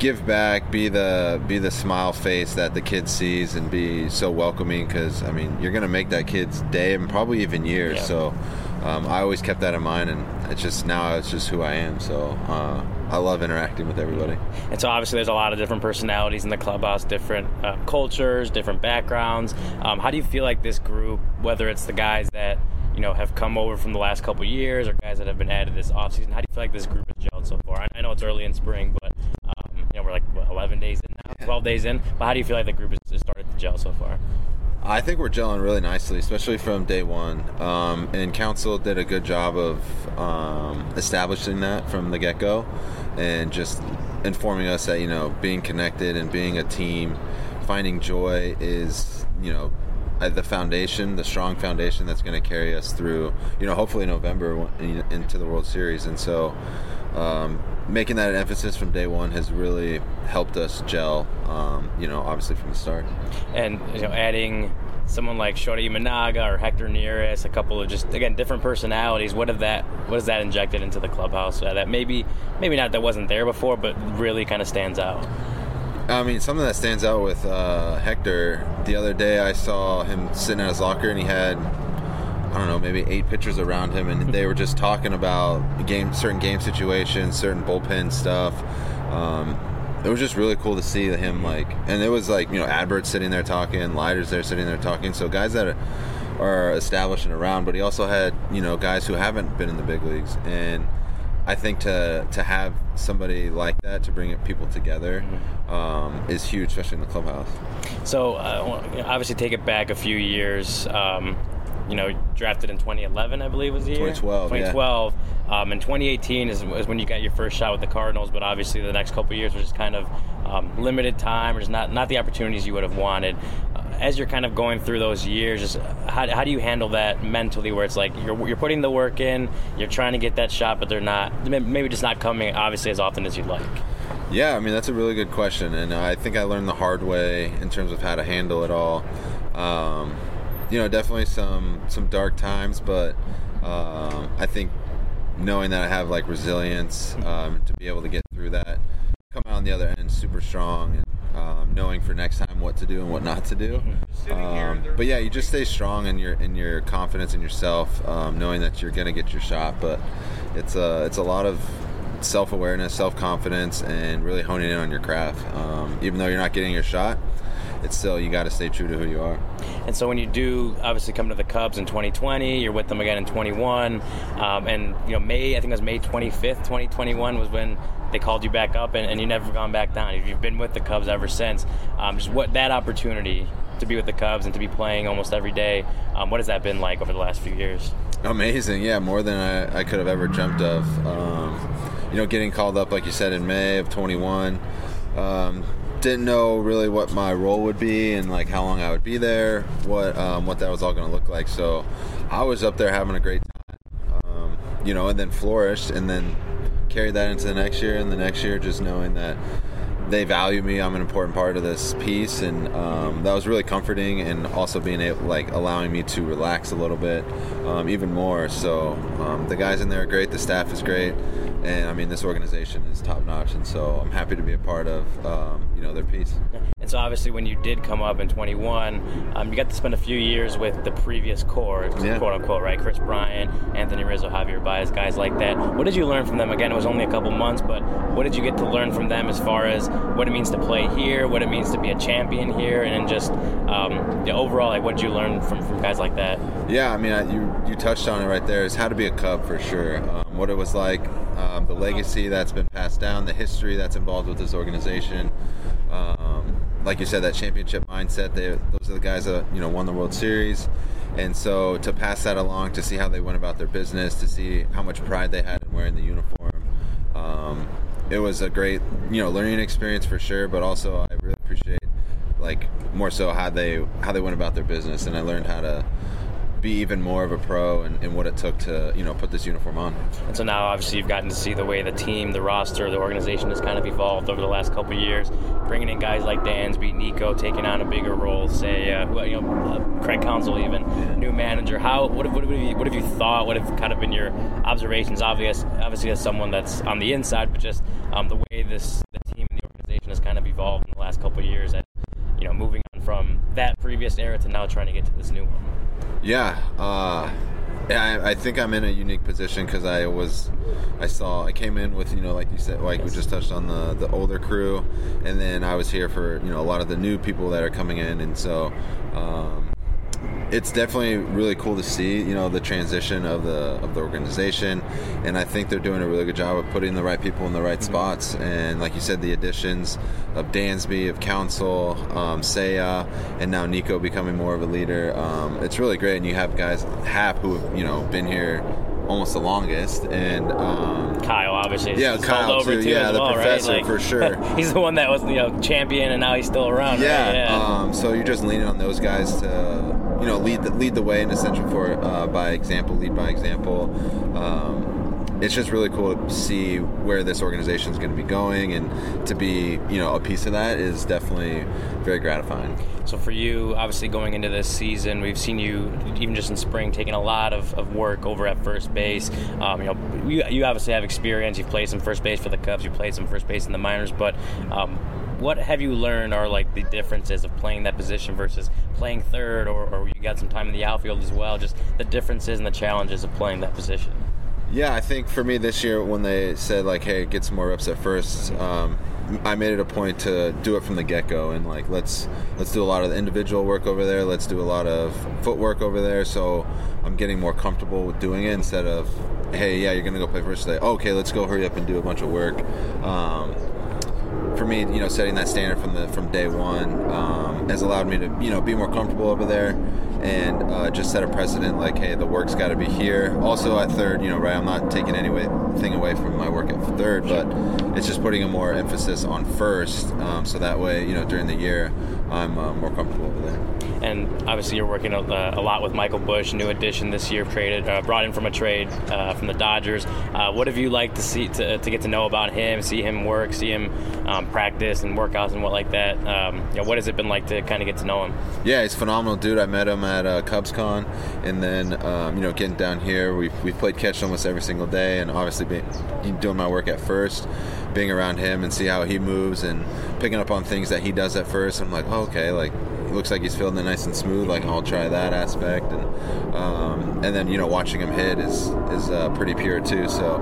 give back, be the be the smile face that the kid sees, and be so welcoming. Because I mean, you're gonna make that kid's day and probably even years. Yeah. So um, I always kept that in mind, and it's just now it's just who I am. So uh, I love interacting with everybody. And so obviously there's a lot of different personalities in the clubhouse, different uh, cultures, different backgrounds. Um, how do you feel like this group, whether it's the guys that you know have come over from the last couple of years or guys that have been added this offseason, how do you feel like this group has gelled so far? I, I know it's early in spring, but um, you know we're like what, eleven days in now, twelve days in. But how do you feel like the group has, has started to gel so far? I think we're gelling really nicely, especially from day one. Um, and Council did a good job of um, establishing that from the get-go, and just informing us that, you know, being connected and being a team, finding joy is, you know, the foundation, the strong foundation that's going to carry us through, you know, hopefully November into the World Series. And so um, making that an emphasis from day one has really helped us gel, um, you know, obviously from the start. And, you know, adding someone like Shota Imanaga or Hector Neris, a couple of just, again, different personalities, what have that, what has that injected into the clubhouse uh, that maybe, maybe not that wasn't there before, but really kind of stands out? I mean, something that stands out with uh, Hector, the other day I saw him sitting at his locker and he had, I don't know, maybe eight pitchers around him, and they were just talking about game, certain game situations, certain bullpen stuff. Um, it was just really cool to see him, like, and it was like, you know, Adbert sitting there talking, Leiter's there sitting there talking, so guys that are, are established and around, but he also had, you know, guys who haven't been in the big leagues, and I think to to have somebody like that to bring people together um, is huge, especially in the clubhouse. So uh, obviously take it back a few years. Um, you know, drafted in twenty eleven, I believe was the year. twenty twelve, twenty twelve. Yeah. Um, and twenty eighteen is, is when you got your first shot with the Cardinals, but obviously the next couple of years was just kind of um, limited time, or just not, not the opportunities you would have wanted. Uh, as you're kind of going through those years, just how, how do you handle that mentally, where it's like you're, you're putting the work in, you're trying to get that shot, but they're not, maybe just not coming, obviously, as often as you'd like? Yeah, I mean, that's a really good question, and I think I learned the hard way in terms of how to handle it all. Um, you know, definitely some some dark times, but um, I think knowing that I have like resilience um, to be able to get through that, come out on the other end super strong, and um, knowing for next time what to do and what not to do. Um, but yeah, you just stay strong in your in your confidence in yourself, um, knowing that you're gonna get your shot. But it's a it's a lot of self-awareness, self-confidence, and really honing in on your craft. Um, even though you're not getting your shot, it's still, you got to stay true to who you are. And so when you do obviously come to the Cubs in twenty twenty, you're with them again in twenty-one, um, and you know May, I think it was May twenty-fifth, twenty twenty-one was when they called you back up, and, and you've never gone back down. You've been with the Cubs ever since. Um, just what that opportunity to be with the Cubs and to be playing almost every day, um, what has that been like over the last few years? Amazing, yeah, more than I, I could have ever dreamt of. Um, you know, getting called up, like you said, in May of twenty-one. Um, didn't know really what my role would be and like how long I would be there, what um, what that was all going to look like. So I was up there having a great time, um, you know, and then flourished, and then carried that into the next year and the next year, just knowing that they value me. I'm an important part of this piece, and um, that was really comforting, and also being able, like, allowing me to relax a little bit, um, even more. So um, the guys in there are great. The staff is great. And I mean, this organization is top notch, and so I'm happy to be a part of, um, you know, their piece. And so obviously, when you did come up in twenty-one, um, you got to spend a few years with the previous core, yeah. quote unquote, right? Chris Bryant, Anthony Rizzo, Javier Baez, guys like that. What did you learn from them? Again, it was only a couple months, but what did you get to learn from them as far as what it means to play here, what it means to be a champion here, and then just um, the overall, like, what did you learn from, from guys like that? Yeah, I mean, I, you you touched on it right there. Is how to be a Cub for sure. Um, what it was like. Um, the legacy that's been passed down, the history that's involved with this organization. Um, like you said, that championship mindset, they, those are the guys that, you know, won the World Series. And so to pass that along, to see how they went about their business, to see how much pride they had in wearing the uniform, um, it was a great, you know, learning experience for sure, but also I really appreciate, like, more so how they how they went about their business, and I learned how to be even more of a pro and, and what it took to, you know, put this uniform on. And so now obviously you've gotten to see the way the team, the roster, the organization has kind of evolved over the last couple of years, bringing in guys like Dansby, Nico taking on a bigger role, say, uh, you know, uh, Craig Counsell even, yeah. new manager. How, what, what, what, have you, what have you thought, what have kind of been your observations, obvious, obviously as someone that's on the inside, but just um, the way this the team and the organization previous era to now trying to get to this new one? Yeah, uh, yeah. I, I think I'm in a unique position because I was, I saw, I came in with, you know, like you said, like we just touched on the the older crew, and then I was here for, you know, a lot of the new people that are coming in, and so. Um, It's definitely really cool to see, you know, the transition of the of the organization, and I think they're doing a really good job of putting the right people in the right spots. And like you said, the additions of Dansby, of Council, um, Seiya, and now Nico becoming more of a leader. Um, it's really great, and you have guys Hap who have, you know, been here almost the longest, and um, Kyle obviously. Yeah, Kyle over too. too Yeah, as the well, professor right? Like, for sure. He's the one that was, you know, champion, and now he's still around. Yeah. Right? Yeah. Um, so you're just leaning on those guys to, you know, lead the, lead the way in Essential for uh, by example, lead by example. Um, it's just really cool to see where this organization is going to be going, and to be, you know, a piece of that is definitely very gratifying. So for you, obviously going into this season, we've seen you, even just in spring, taking a lot of, of work over at first base. Um, you know, you, you obviously have experience. You've played some first base for the Cubs. You played some first base in the minors. But um, what have you learned are like the differences of playing that position versus playing third, or, or you got some time in the outfield as well? Just the differences and the challenges of playing that position. Yeah, I think for me this year, when they said like, "Hey, get some more reps at first," um, I made it a point to do it from the get-go, and like let's let's do a lot of the individual work over there. Let's do a lot of footwork over there. So I'm getting more comfortable with doing it instead of, "Hey, yeah, you're gonna go play first today. Okay, let's go hurry up and do a bunch of work." Um, for me, you know, setting that standard from the from day one um, has allowed me to, you know, be more comfortable over there, and uh, just set a precedent like, hey, the work's got to be here. Also at third, you know, right, I'm not taking anything away from my work at third, but it's just putting a more emphasis on first, um, so that way, you know, during the year, I'm uh, more comfortable over there. And obviously you're working a, a lot with Michael Busch, new addition this year, traded, uh, brought in from a trade uh, from the Dodgers. Uh, what have you liked to see, to, to get to know about him, see him work, see him um, practice and workouts and what like that? Um, you know, what has it been like to kind of get to know him? Yeah, he's a phenomenal dude. I met him at uh, CubsCon, and then um, you know, getting down here, we've we've played catch almost every single day, and obviously being, doing my work at first, being around him and see how he moves and picking up on things that he does at first. I'm like, oh, okay, like. Looks like he's feeling it nice and smooth. Like, I'll try that aspect, and um, and then, you know, watching him hit is is uh, pretty pure too. So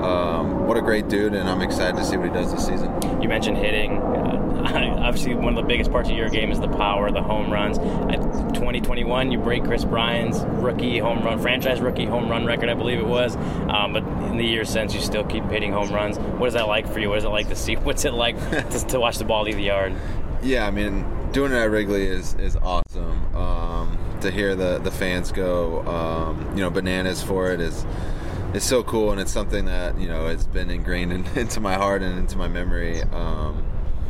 um, what a great dude, and I'm excited to see what he does this season. You mentioned hitting. Uh, obviously, one of the biggest parts of your game is the power, the home runs. At twenty twenty-one, you break Chris Bryant's rookie home run, franchise rookie home run record, I believe it was. Um, but in the years since, you still keep hitting home runs. What is that like for you? What is it like to see? What's it like to, to watch the ball leave the yard? Yeah, I mean, doing it at Wrigley is, is awesome. Um, to hear the, the fans go, um, you know, bananas for it is is so cool, and it's something that, you know, has been ingrained in, into my heart and into my memory. Um,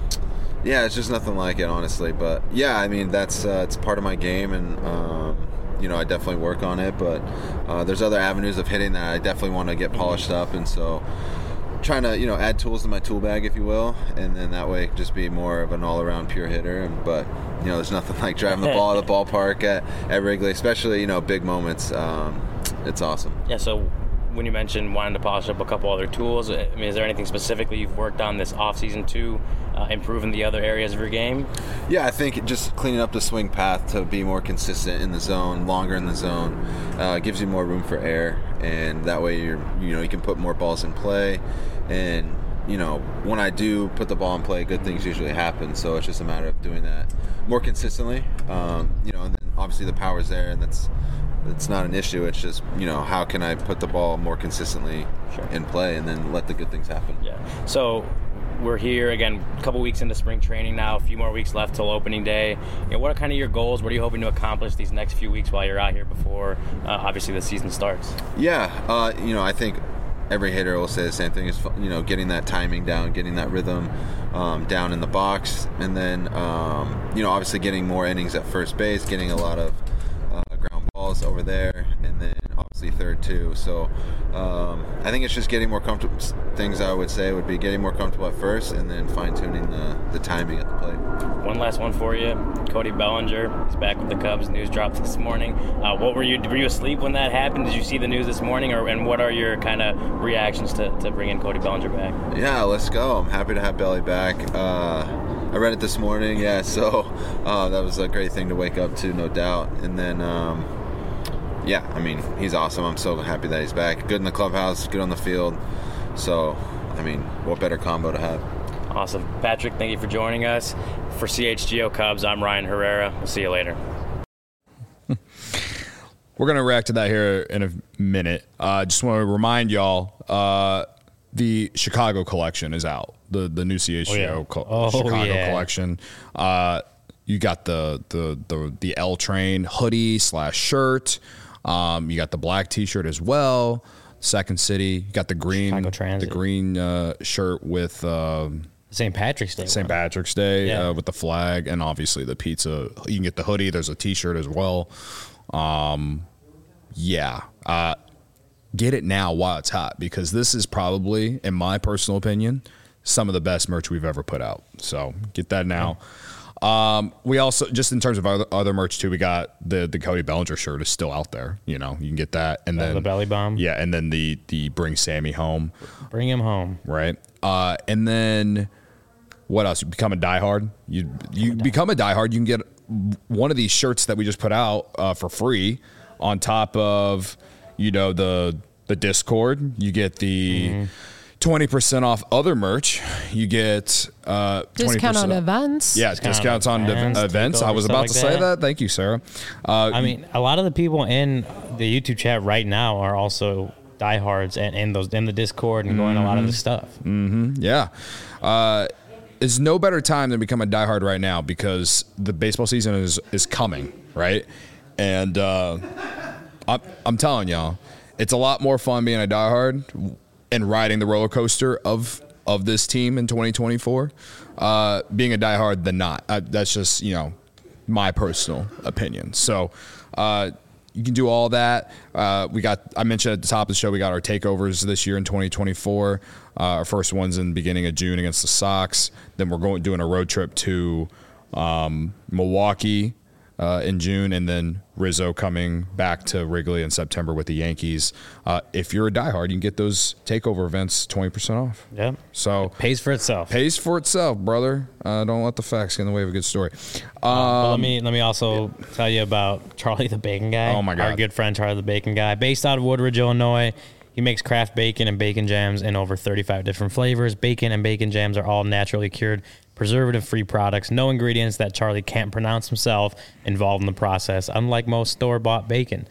yeah, it's just nothing like it, honestly. But yeah, I mean, that's uh, it's part of my game, and um, you know, I definitely work on it. But uh, there's other avenues of hitting that I definitely want to get polished up, and so. Trying to, you know, add tools to my tool bag, if you will, and then that way just be more of an all-around pure hitter. And, but, you know, there's nothing like driving the ball at the ballpark at, at Wrigley, especially, you know, big moments. Um, it's awesome. Yeah, so when you mentioned wanting to polish up a couple other tools, I mean, is there anything specifically you've worked on this offseason to uh, improve in the other areas of your game? Yeah, I think just cleaning up the swing path to be more consistent in the zone, longer in the zone, uh, gives you more room for air, and that way you're, you know, you can put more balls in play. And, you know, when I do put the ball in play, good things usually happen. So it's just a matter of doing that more consistently. Um, you know, and then obviously the power's there, and that's it's not an issue. It's just, you know, how can I put the ball more consistently sure. in play, and then let the good things happen. Yeah. So we're here again, a couple weeks into spring training now, a few more weeks left till opening day. You know, what are kind of your goals? What are you hoping to accomplish these next few weeks while you're out here before, uh, obviously, the season starts? Yeah, uh, you know, I think every hitter will say the same thing, is, you know, getting that timing down, getting that rhythm um, down in the box, and then, um, you know, obviously getting more innings at first base, getting a lot of uh, ground balls over there, and then obviously third too. So um, I think it's just getting more comfortable. Things I would say would be getting more comfortable at first, and then fine-tuning the, the timing at the plate. One last one for you. Cody Bellinger, he's back with the Cubs. News dropped this morning. Uh, what were you? Were you asleep when that happened? Did you see the news this morning, or and what are your kind of reactions to, to bringing Cody Bellinger back? Yeah, let's go. I'm happy to have Belly back. Uh, I read it this morning. Yeah, so uh, that was a great thing to wake up to, no doubt. And then, um, yeah, I mean, he's awesome. I'm so happy that he's back. Good in the clubhouse, good on the field. So, I mean, what better combo to have? Awesome. Patrick, thank you for joining us. For C H G O Cubs, I'm Ryan Herrera. We'll see you later. We're going to react to that here in a minute. I uh, just want to remind y'all, uh, the Chicago collection is out. The the new C H G O Oh, yeah. co- Oh, Chicago yeah. collection. Uh, you got the the the the L Train hoodie slash shirt. Um, you got the black T-shirt as well. Second City. You got the green Chicago the Transit. green uh, shirt with um, Saint Patrick's Day. Saint one. Patrick's Day Yeah. uh, with the flag, and obviously the pizza. You can get the hoodie. There's a T-shirt as well. Um, yeah. Uh, get it now while it's hot, because this is probably, in my personal opinion, some of the best merch we've ever put out. So get that now. Um, we also, just in terms of other, other merch too, we got the the Cody Bellinger shirt is still out there. You know, you can get that, and Uh, then the belly bomb. Yeah, and then the the Bring Sammy Home, Bring him home. right? Uh, and then what else? You become a diehard. You you become a diehard. You can get one of these shirts that we just put out uh, for free, on top of, you know, the the Discord. You get the twenty percent off other merch. You get uh, Discount on twenty percent events. Yeah, Discount discounts on events, ev- events. I takeovers, was stuff about like to say that. that. Thank you, Sarah. Uh, I mean, a lot of the people in the YouTube chat right now are also diehards and in those in the Discord and going a lot of the stuff. Yeah. Uh, it's no better time than become a diehard right now, because the baseball season is, is coming, right? And uh, I'm, I'm telling y'all, it's a lot more fun being a diehard and riding the roller coaster of of this team in twenty twenty-four, uh, being a diehard than not. Uh, that's just, you know, my personal opinion. So uh, you can do all that. Uh, we got, I mentioned at the top of the show, we got our takeovers this year in twenty twenty-four. Uh, our first one's in the beginning of June against the Sox. Then we're going doing a road trip to um, Milwaukee uh, in June, and then Rizzo coming back to Wrigley in September with the Yankees. Uh, if you're a diehard, you can get those takeover events twenty percent off. Yep. So Pays for itself. pays for itself, brother. Uh, don't let the facts get in the way of a good story. But Um, let me let me also tell you about Charlie the Bacon Guy. Oh, my God. Our good friend Charlie the Bacon Guy, based out of Woodridge, Illinois. He makes craft bacon and bacon jams in over thirty-five different flavors. Bacon and bacon jams are all naturally cured, preservative-free products. No ingredients that Charlie can't pronounce himself involved in the process, unlike most store-bought bacon.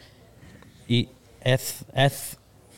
E- eth- eth-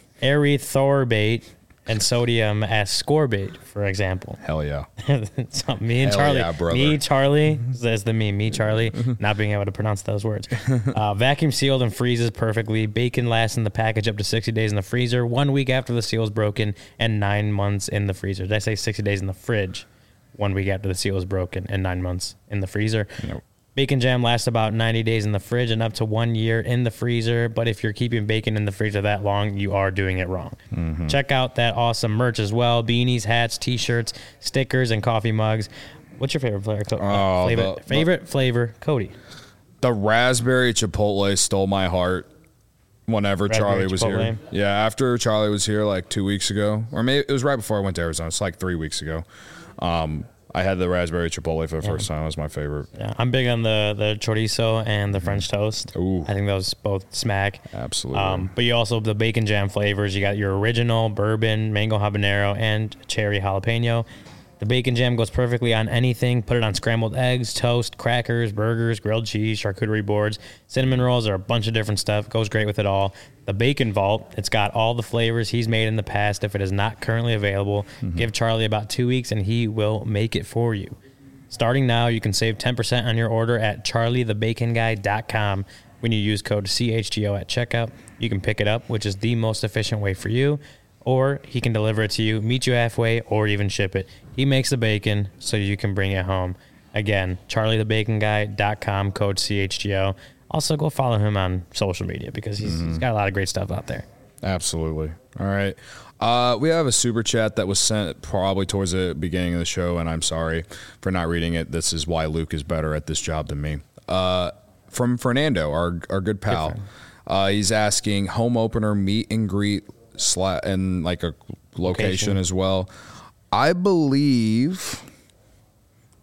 erythorbate and sodium ascorbate, for example. hell yeah. So me and Hell Charlie, yeah, brother. me Charlie, that's the me, me Charlie, not being able to pronounce those words. Uh, vacuum sealed and freezes perfectly. Bacon lasts in the package up to sixty days in the freezer, one week after the seal is broken, and nine months in the freezer. Did I say sixty days in the fridge? One week after the seal is broken, and nine months in the freezer. Nope. Bacon jam lasts about ninety days in the fridge and up to one year in the freezer. But if you're keeping bacon in the freezer that long, you are doing it wrong. Mm-hmm. Check out that awesome merch as well. Beanies, hats, T-shirts, stickers, and coffee mugs. What's your favorite flavor? Co- uh, Oh, flavor, the- favorite flavor, Cody. The raspberry chipotle stole my heart whenever Raspberry Charlie was Chipotle? here. Yeah, after Charlie was here like two weeks ago, or maybe it was right before I went to Arizona. It's like three weeks ago. Um, I had the raspberry chipotle for the first time. It was my favorite. Yeah, I'm big on the the chorizo and the French toast. Ooh. I think those both smack. Absolutely. Um, but you also the bacon jam flavors. You got your original bourbon, mango habanero, and cherry jalapeno. The bacon jam goes perfectly on anything. Put it on scrambled eggs, toast, crackers, burgers, grilled cheese, charcuterie boards, cinnamon rolls, or a bunch of different stuff. Goes great with it all. The Bacon Vault, it's got all the flavors he's made in the past. If it is not currently available, Mm-hmm. give Charlie about two weeks and he will make it for you. Starting now, you can save ten percent on your order at charlie the bacon guy dot com when you use code C H G O at checkout. You can pick it up, which is the most efficient way for you, or he can deliver it to you, meet you halfway, or even ship it. He makes the bacon so you can bring it home. Again, charlie the bacon guy dot com, code C H G O. Also, go follow him on social media because he's, he's got a lot of great stuff out there. Absolutely. All right. Uh, we have a super chat that was sent probably towards the beginning of the show, and I'm sorry for not reading it. This is why Luke is better at this job than me. Uh, from Fernando, our our good pal. friend. Uh, he's asking home opener meet and greet sla- and like a location, Location. as well. I believe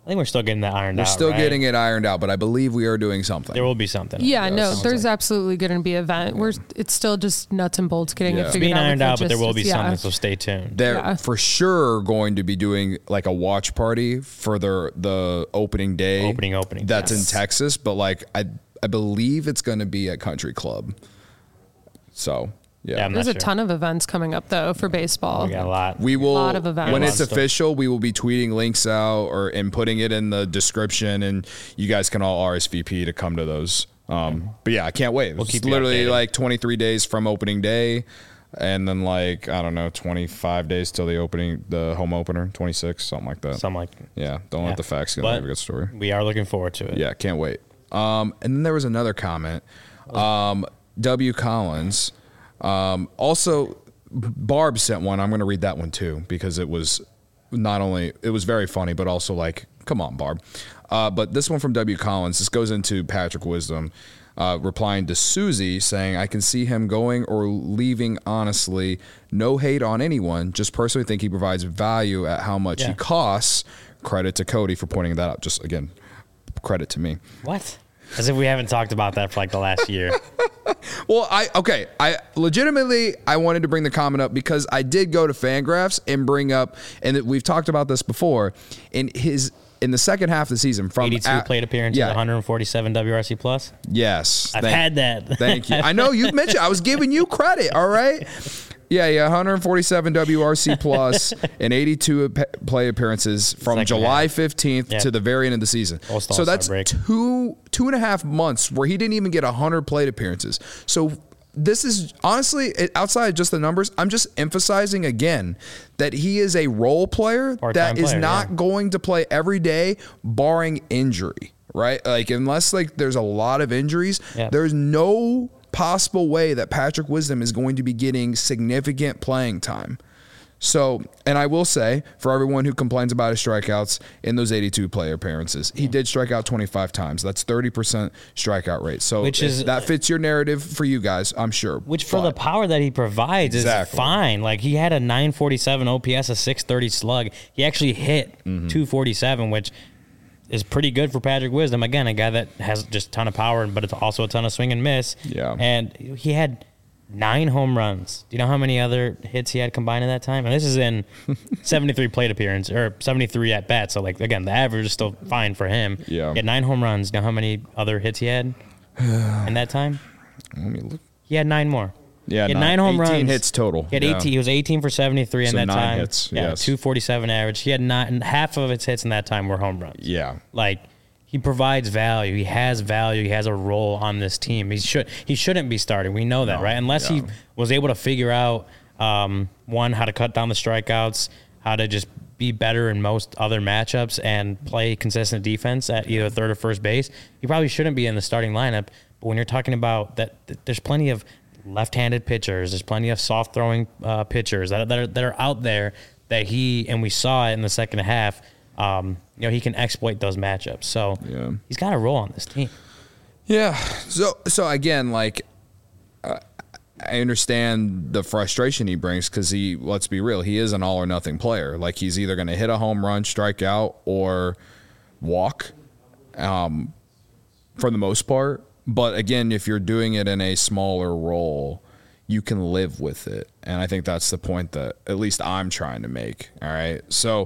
I think we're still getting that ironed We're out. still right? getting it ironed out, but I believe we are doing something. There will be something. Yeah, Yeah, no, sounds there's like- absolutely going to be an event. We're it's still just nuts and bolts getting Yeah. it It's figured being out. with ironed out, but there will be logistics. Yeah. something. So stay tuned. They're Yeah. for sure going to be doing like a watch party for the the opening day. Opening, opening, That's yes. in Texas, but like I I believe it's going to be at Country Club. So yeah, Yeah, I'm There's not a sure. ton of events coming up though for baseball. We got a lot. we will lot of events. when A lot it's of stuff. official. We will be tweeting links out or and putting it in the description, and you guys can all R S V P to come to those. Um, but yeah, I can't wait. We'll It's keep you literally updated. like twenty-three days from opening day. And then like, I don't know, twenty-five days till the opening, the home opener, twenty-six, something like that. Something like Yeah, don't Yeah. let the facts get But away with a good story. we are looking forward to it. Yeah, can't wait. Um, and then there was another comment. Um, W. Collins. Um, also, Barb sent one. I'm going to read that one too because it was not only it was very funny, but also like, come on, Barb. Uh, but this one from W. Collins. This goes into Patrick Wisdom. Uh, replying to Susie saying, I can see him going or leaving honestly. No hate on anyone. Just personally think he provides value at how much Yeah. he costs. Credit to Cody for pointing that out. Just again, credit to me. What? As if we haven't talked about that for like the last year. Well, I okay. I legitimately I wanted to bring the comment up because I did go to Fangraphs and bring up, and we've talked about this before. In his in the second half of the season, from eighty-two at- plate appearances, yeah, one hundred forty-seven W R C plus. yes, I've thank- had that. Thank you. I know you mentioned. I was giving you credit. All right. Yeah, yeah, one hundred forty-seven W R C plus and eighty-two ap- play appearances from Second July half. fifteenth Yeah. to the very end of the season. Post So All-Star that's break. two two and a half months where he didn't even get one hundred plate appearances. So this is honestly it, outside of just the numbers. I'm just emphasizing again that he is a role player Part-time that is player, not yeah. going to play every day, barring injury. Right? Like unless like there's a lot of injuries, Yeah. there's no possible way that Patrick Wisdom is going to be getting significant playing time. So, and I will say, for everyone who complains about his strikeouts in those eighty-two player appearances, he did strike out twenty-five times. That's thirty percent strikeout rate. So, Which if is- that fits your narrative for you guys, I'm sure. Which for But- the power that he provides Exactly. is fine. Like he had a nine forty-seven O P S, a six thirty slug. He actually hit Mm-hmm. two forty-seven, which is pretty good for Patrick Wisdom. Again, a guy that has just a ton of power, but it's also a ton of swing and miss. Yeah. And he had nine home runs. Do you know how many other hits he had combined in that time? And this is in seventy-three plate appearance or seventy-three at bat. So like again, the average is still fine for him. Yeah. He had nine home runs. Do you know how many other hits he had in that time? Let me look. He had nine more. Yeah, he had nine- nine home eighteen runs. hits total. He had Yeah. eighteen. He was eighteen for seventy-three in So that nine time. hits, Yeah, yes. two forty-seven average. He had nine. Half of his hits in that time were home runs. Yeah. Like he provides value. He has value. He has a role on this team. He should. He shouldn't be starting. We know that, No, right? Unless yeah. he was able to figure out um, one, how to cut down the strikeouts, how to just be better in most other matchups, and play consistent defense at either third or first base. He probably shouldn't be in the starting lineup. But when you're talking about that, th- there's plenty of left-handed pitchers. There's plenty of soft-throwing uh, pitchers that, that, are, that are out there that he, and we saw it in the second half, um, you know, he can exploit those matchups. So Yeah. he's got a role on this team. Yeah. So so again, like uh, I understand the frustration he brings because he, let's be real, he is an all or nothing player. Like he's either going to hit a home run, strike out, or walk, um, for the most part. But again, if you're doing it in a smaller role, you can live with it, and I think that's the point that at least I'm trying to make. All right, so.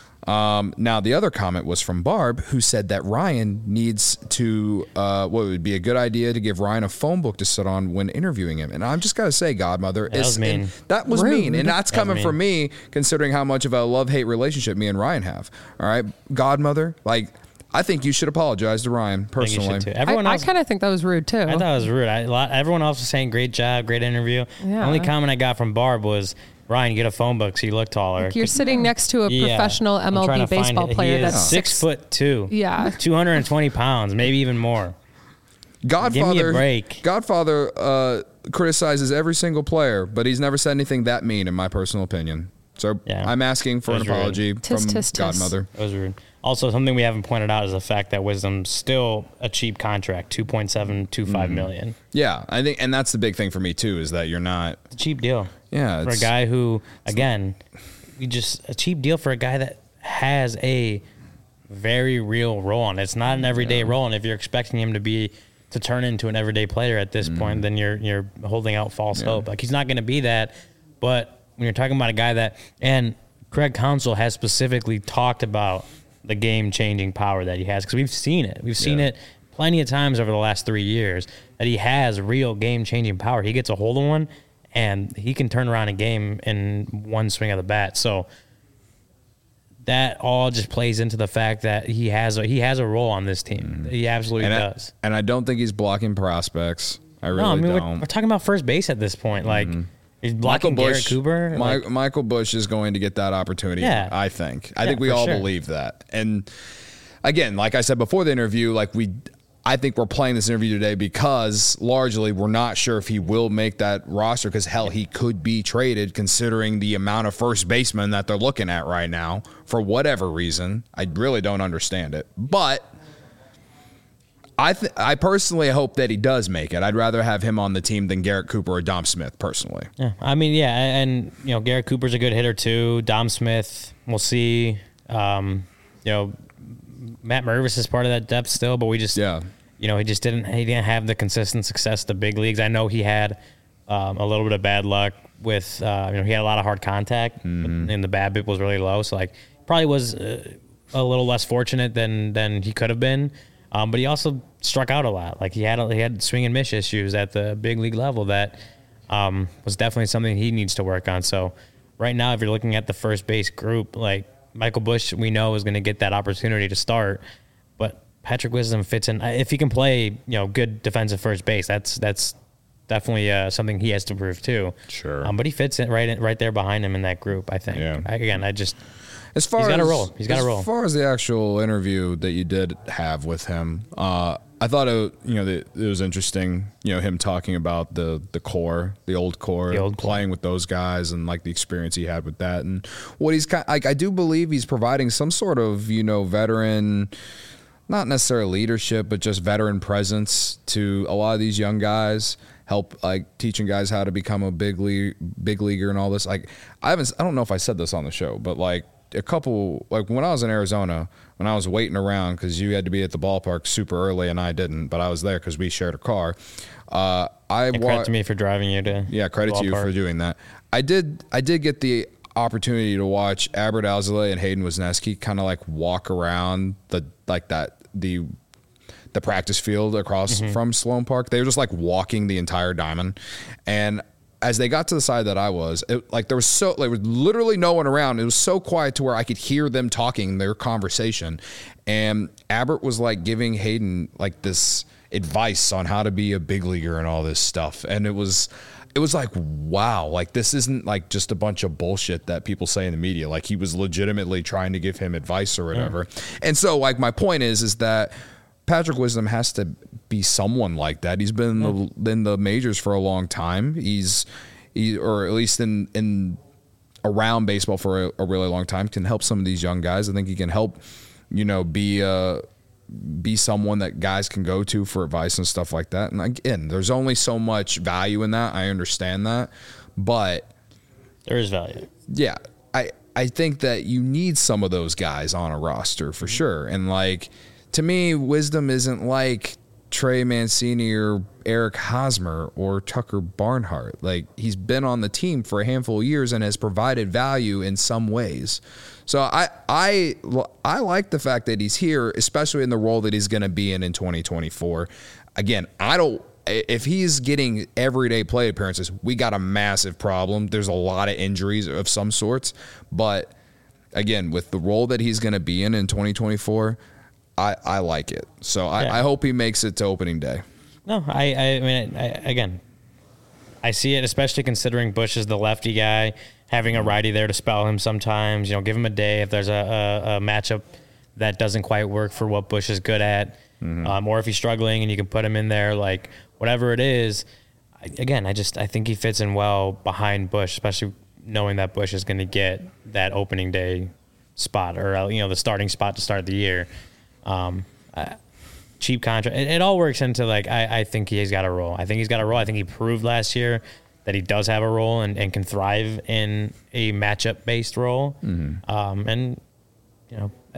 Um, now, the other comment was from Barb, who said that Ryan needs to, uh, what would be a good idea to give Ryan a phone book to sit on when interviewing him. And I'm just got to say, Godmother, that was it's- mean. and that was Rude. mean. And that's That was coming mean. from me, considering how much of a love-hate relationship me and Ryan have. All right, Godmother, like, I think you should apologize to Ryan I think you personally. should too. I, Everyone I else, kind of think that was rude too. I thought it was rude. I, a lot, everyone else was saying great job, great interview. Yeah. The only comment I got from Barb was, Ryan, get a phone book so you look taller. You're sitting next to a Yeah. professional I'm M L trying B to find baseball it. player He is that's six, six foot two. Yeah. two hundred twenty pounds, maybe even more. Godfather, Give me a break. Godfather uh, criticizes every single player, but he's never said anything that mean, in my personal opinion. So Yeah. I'm asking for That an was rude. apology Tis, from tis, tis. Godmother. It was rude. Also, something we haven't pointed out is the fact that Wisdom's still a cheap contract, two point seven two five million. Yeah, I think, and that's the big thing for me too, is that you're not. It's a cheap deal. Yeah, For a it's- guy who, again, we just a cheap deal for a guy that has a very real role, and it's not an everyday yeah. role. And if you're expecting him to be to turn into an everyday player at this mm. point, then you're you're holding out false yeah. hope. Like, he's not going to be that. But when you're talking about a guy that, and Craig Counsell has specifically talked about the game changing power that he has, because we've seen it. We've seen yeah. it plenty of times over the last three years that he has real game changing power. He gets a hold of one, and he can turn around a game in one swing of the bat. So that all just plays into the fact that he has a, he has a role on this team. Mm. He absolutely and does. I, and I don't think he's blocking prospects. I really no, I mean, don't. We're, we're talking about first base at this point. Like, mm-hmm. he's blocking Michael Garrett Busch, Cooper. My, like, Michael Busch is going to get that opportunity, yeah. I think. I yeah, think we all sure. believe that. And again, like I said before the interview, like we – I think we're playing this interview today because largely we're not sure if he will make that roster, because, hell, he could be traded considering the amount of first basemen that they're looking at right now for whatever reason. I really don't understand it. But I th- I personally hope that he does make it. I'd rather have him on the team than Garrett Cooper or Dom Smith, personally. Yeah, I mean, yeah, and, you know, Garrett Cooper's a good hitter too. Dom Smith, we'll see. Um, you know, Matt Mervis is part of that depth still, but we just yeah. – You know, he just didn't he didn't have the consistent success at the big leagues. I know he had um, a little bit of bad luck with, uh, you know, he had a lot of hard contact, mm-hmm. and the BABIP was really low. So, like, probably was uh, a little less fortunate than than he could have been. Um, but he also struck out a lot. Like, he had he had swing and miss issues at the big league level that um, was definitely something he needs to work on. So, right now, if you're looking at the first base group, like, Michael Busch, we know is going to get that opportunity to start, but Patrick Wisdom fits in. If he can play, you know, good defensive first base, that's that's definitely uh, something he has to prove too. Sure. Um, but he fits in right in, right there behind him in that group, I think. Yeah. I, again, I just as far he's got as, a role. He's got a role. As far as the actual interview that you did have with him, uh, I thought it, you know, it was interesting. You know, him talking about the the core, the old core, the old playing core. with those guys, and like the experience he had with that, and what he's kind. Like, I do believe he's providing some sort of, you know, veteran. Not necessarily leadership, but just veteran presence to a lot of these young guys. Help, like, teaching guys how to become a big league, big leaguer and all this. Like, I haven't, I don't know if I said this on the show, but like a couple, like when I was in Arizona, when I was waiting around because you had to be at the ballpark super early and I didn't, but I was there because we shared a car. Uh, I and credit wa- to me for driving you to yeah, credit to you for doing that. I did, I did get the opportunity to watch Adbert Alzolay and Hayden Wesneski kind of like walk around the like that. the the practice field across mm-hmm. from Sloan Park. They were just like walking the entire diamond. And as they got to the side that I was, it, like there was so there was literally no one around. It was so quiet to where I could hear them talking, their conversation. And Adbert was like giving Hayden like this advice on how to be a big leaguer and all this stuff. And it was It was like, wow, like this isn't like just a bunch of bullshit that people say in the media. Like he was legitimately trying to give him advice or whatever. Yeah. And so like my point is, is that Patrick Wisdom has to be someone like that. He's been in the, in the majors for a long time. He's, he, or at least in, in around baseball for a, a really long time, can help some of these young guys. I think he can help, you know, be a, be someone that guys can go to for advice and stuff like that. And again, there's only so much value in that. I understand that, but there is value. Yeah. I, I think that you need some of those guys on a roster for sure. And like, to me, Wisdom isn't like Trey Mancini or Eric Hosmer or Tucker Barnhart. Like, he's been on the team for a handful of years and has provided value in some ways. So I I I like the fact that he's here, especially in the role that he's going to be in in twenty twenty-four. Again, I don't. If he's getting everyday play appearances, we got a massive problem. There's a lot of injuries of some sorts, but again, with the role that he's going to be in in twenty twenty-four, I, I like it. So I, yeah. I hope he makes it to opening day. No, I I mean I, again, I see it, especially considering Busch is the lefty guy. Having a righty there to spell him sometimes, you know, give him a day if there's a, a, a matchup that doesn't quite work for what Busch is good at, mm-hmm. um, or if he's struggling and you can put him in there, like whatever it is. I, again, I just I think he fits in well behind Busch, especially knowing that Busch is going to get that opening day spot or you know the starting spot to start the year. Um, uh, cheap contract. It, it all works into like I, I think he's got a role. I think he's got a role. I think he proved last year that he does have a role and, and can thrive in a matchup-based role. Mm-hmm. Um, and, you know, I,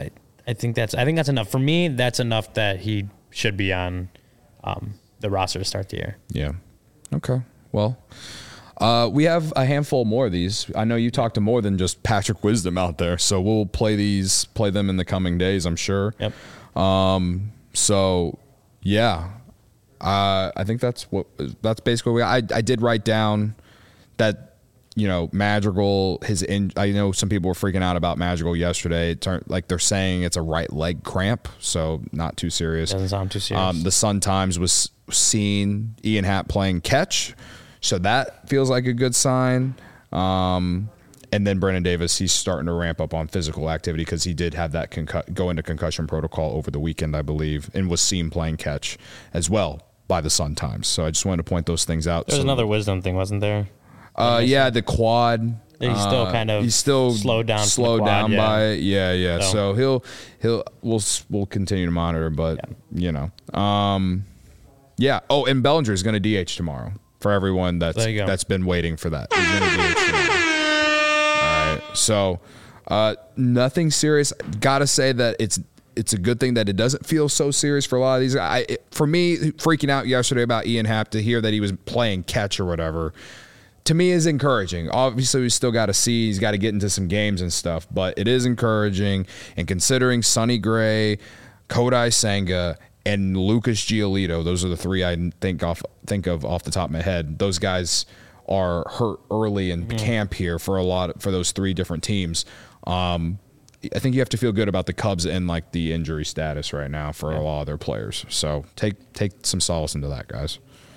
I think that's I think that's enough for me. That's enough that he should be on um, the roster to start the year. Yeah. Okay. Well, uh, we have a handful more of these. I know you talked to more than just Patrick Wisdom out there, so we'll play these, play them in the coming days, I'm sure. Yep. Um. So, yeah. Uh, I think that's what that's basically. What I I did write down that. You know, Madrigal, his in, I know some people were freaking out about Madrigal yesterday. It turned like they're saying it's a right leg cramp, so not too serious. Doesn't sound too serious. Um, the Sun Times was seeing Ian Happ playing catch, so that feels like a good sign. Um, and then Brennan Davis, he's starting to ramp up on physical activity because he did have that concu- go into concussion protocol over the weekend, I believe, and was seen playing catch as well by the Sun Times. So I just wanted to point those things out. There's so, another Wisdom thing, wasn't there? Uh, yeah, the quad. He's still uh, kind of he's still slowed down. Slowed from the quad, down yeah. by it. Yeah, yeah. So. So. he'll he'll we'll we'll continue to monitor, but Yeah. you know, um, yeah. Oh, and Bellinger is going to D H tomorrow for everyone that's There you go. that's been waiting for that. He's going to D H tomorrow. All right. So uh, nothing serious. Got to say that it's. It's a good thing that it doesn't feel so serious for a lot of these. I, it, for me, freaking out yesterday about Ian Happ to hear that he was playing catch or whatever, to me is encouraging. Obviously, we still got to see. He's got to get into some games and stuff, but it is encouraging. And considering Sonny Gray, Kodai Senga, and Lucas Giolito, those are the three I think off think of off the top of my head. Those guys are hurt early in mm-hmm. camp here for a lot for those three different teams. Um, I think you have to feel good about the Cubs and like the injury status right now for a lot of their players. So take take some solace into that, guys.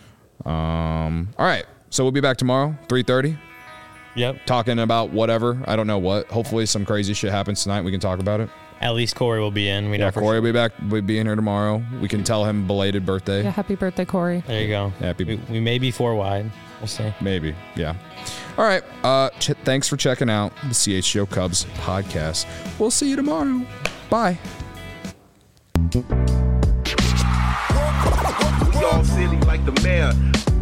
Um, all right, so we'll be back tomorrow, three thirty. Yep. Talking about whatever. I don't know what. Hopefully some crazy shit happens tonight. We can talk about it. At least Corey will be in. We know Yeah, for Corey sure. will be back. We'll be in here tomorrow. We can tell him belated birthday. Yeah, happy birthday, Corey. There you go. Happy. We, we may be four wide. We'll see. Maybe. Yeah. All right. Uh, ch- thanks for checking out the C H G O Cubs podcast. We'll see you tomorrow. Bye. We all silly like the mayor.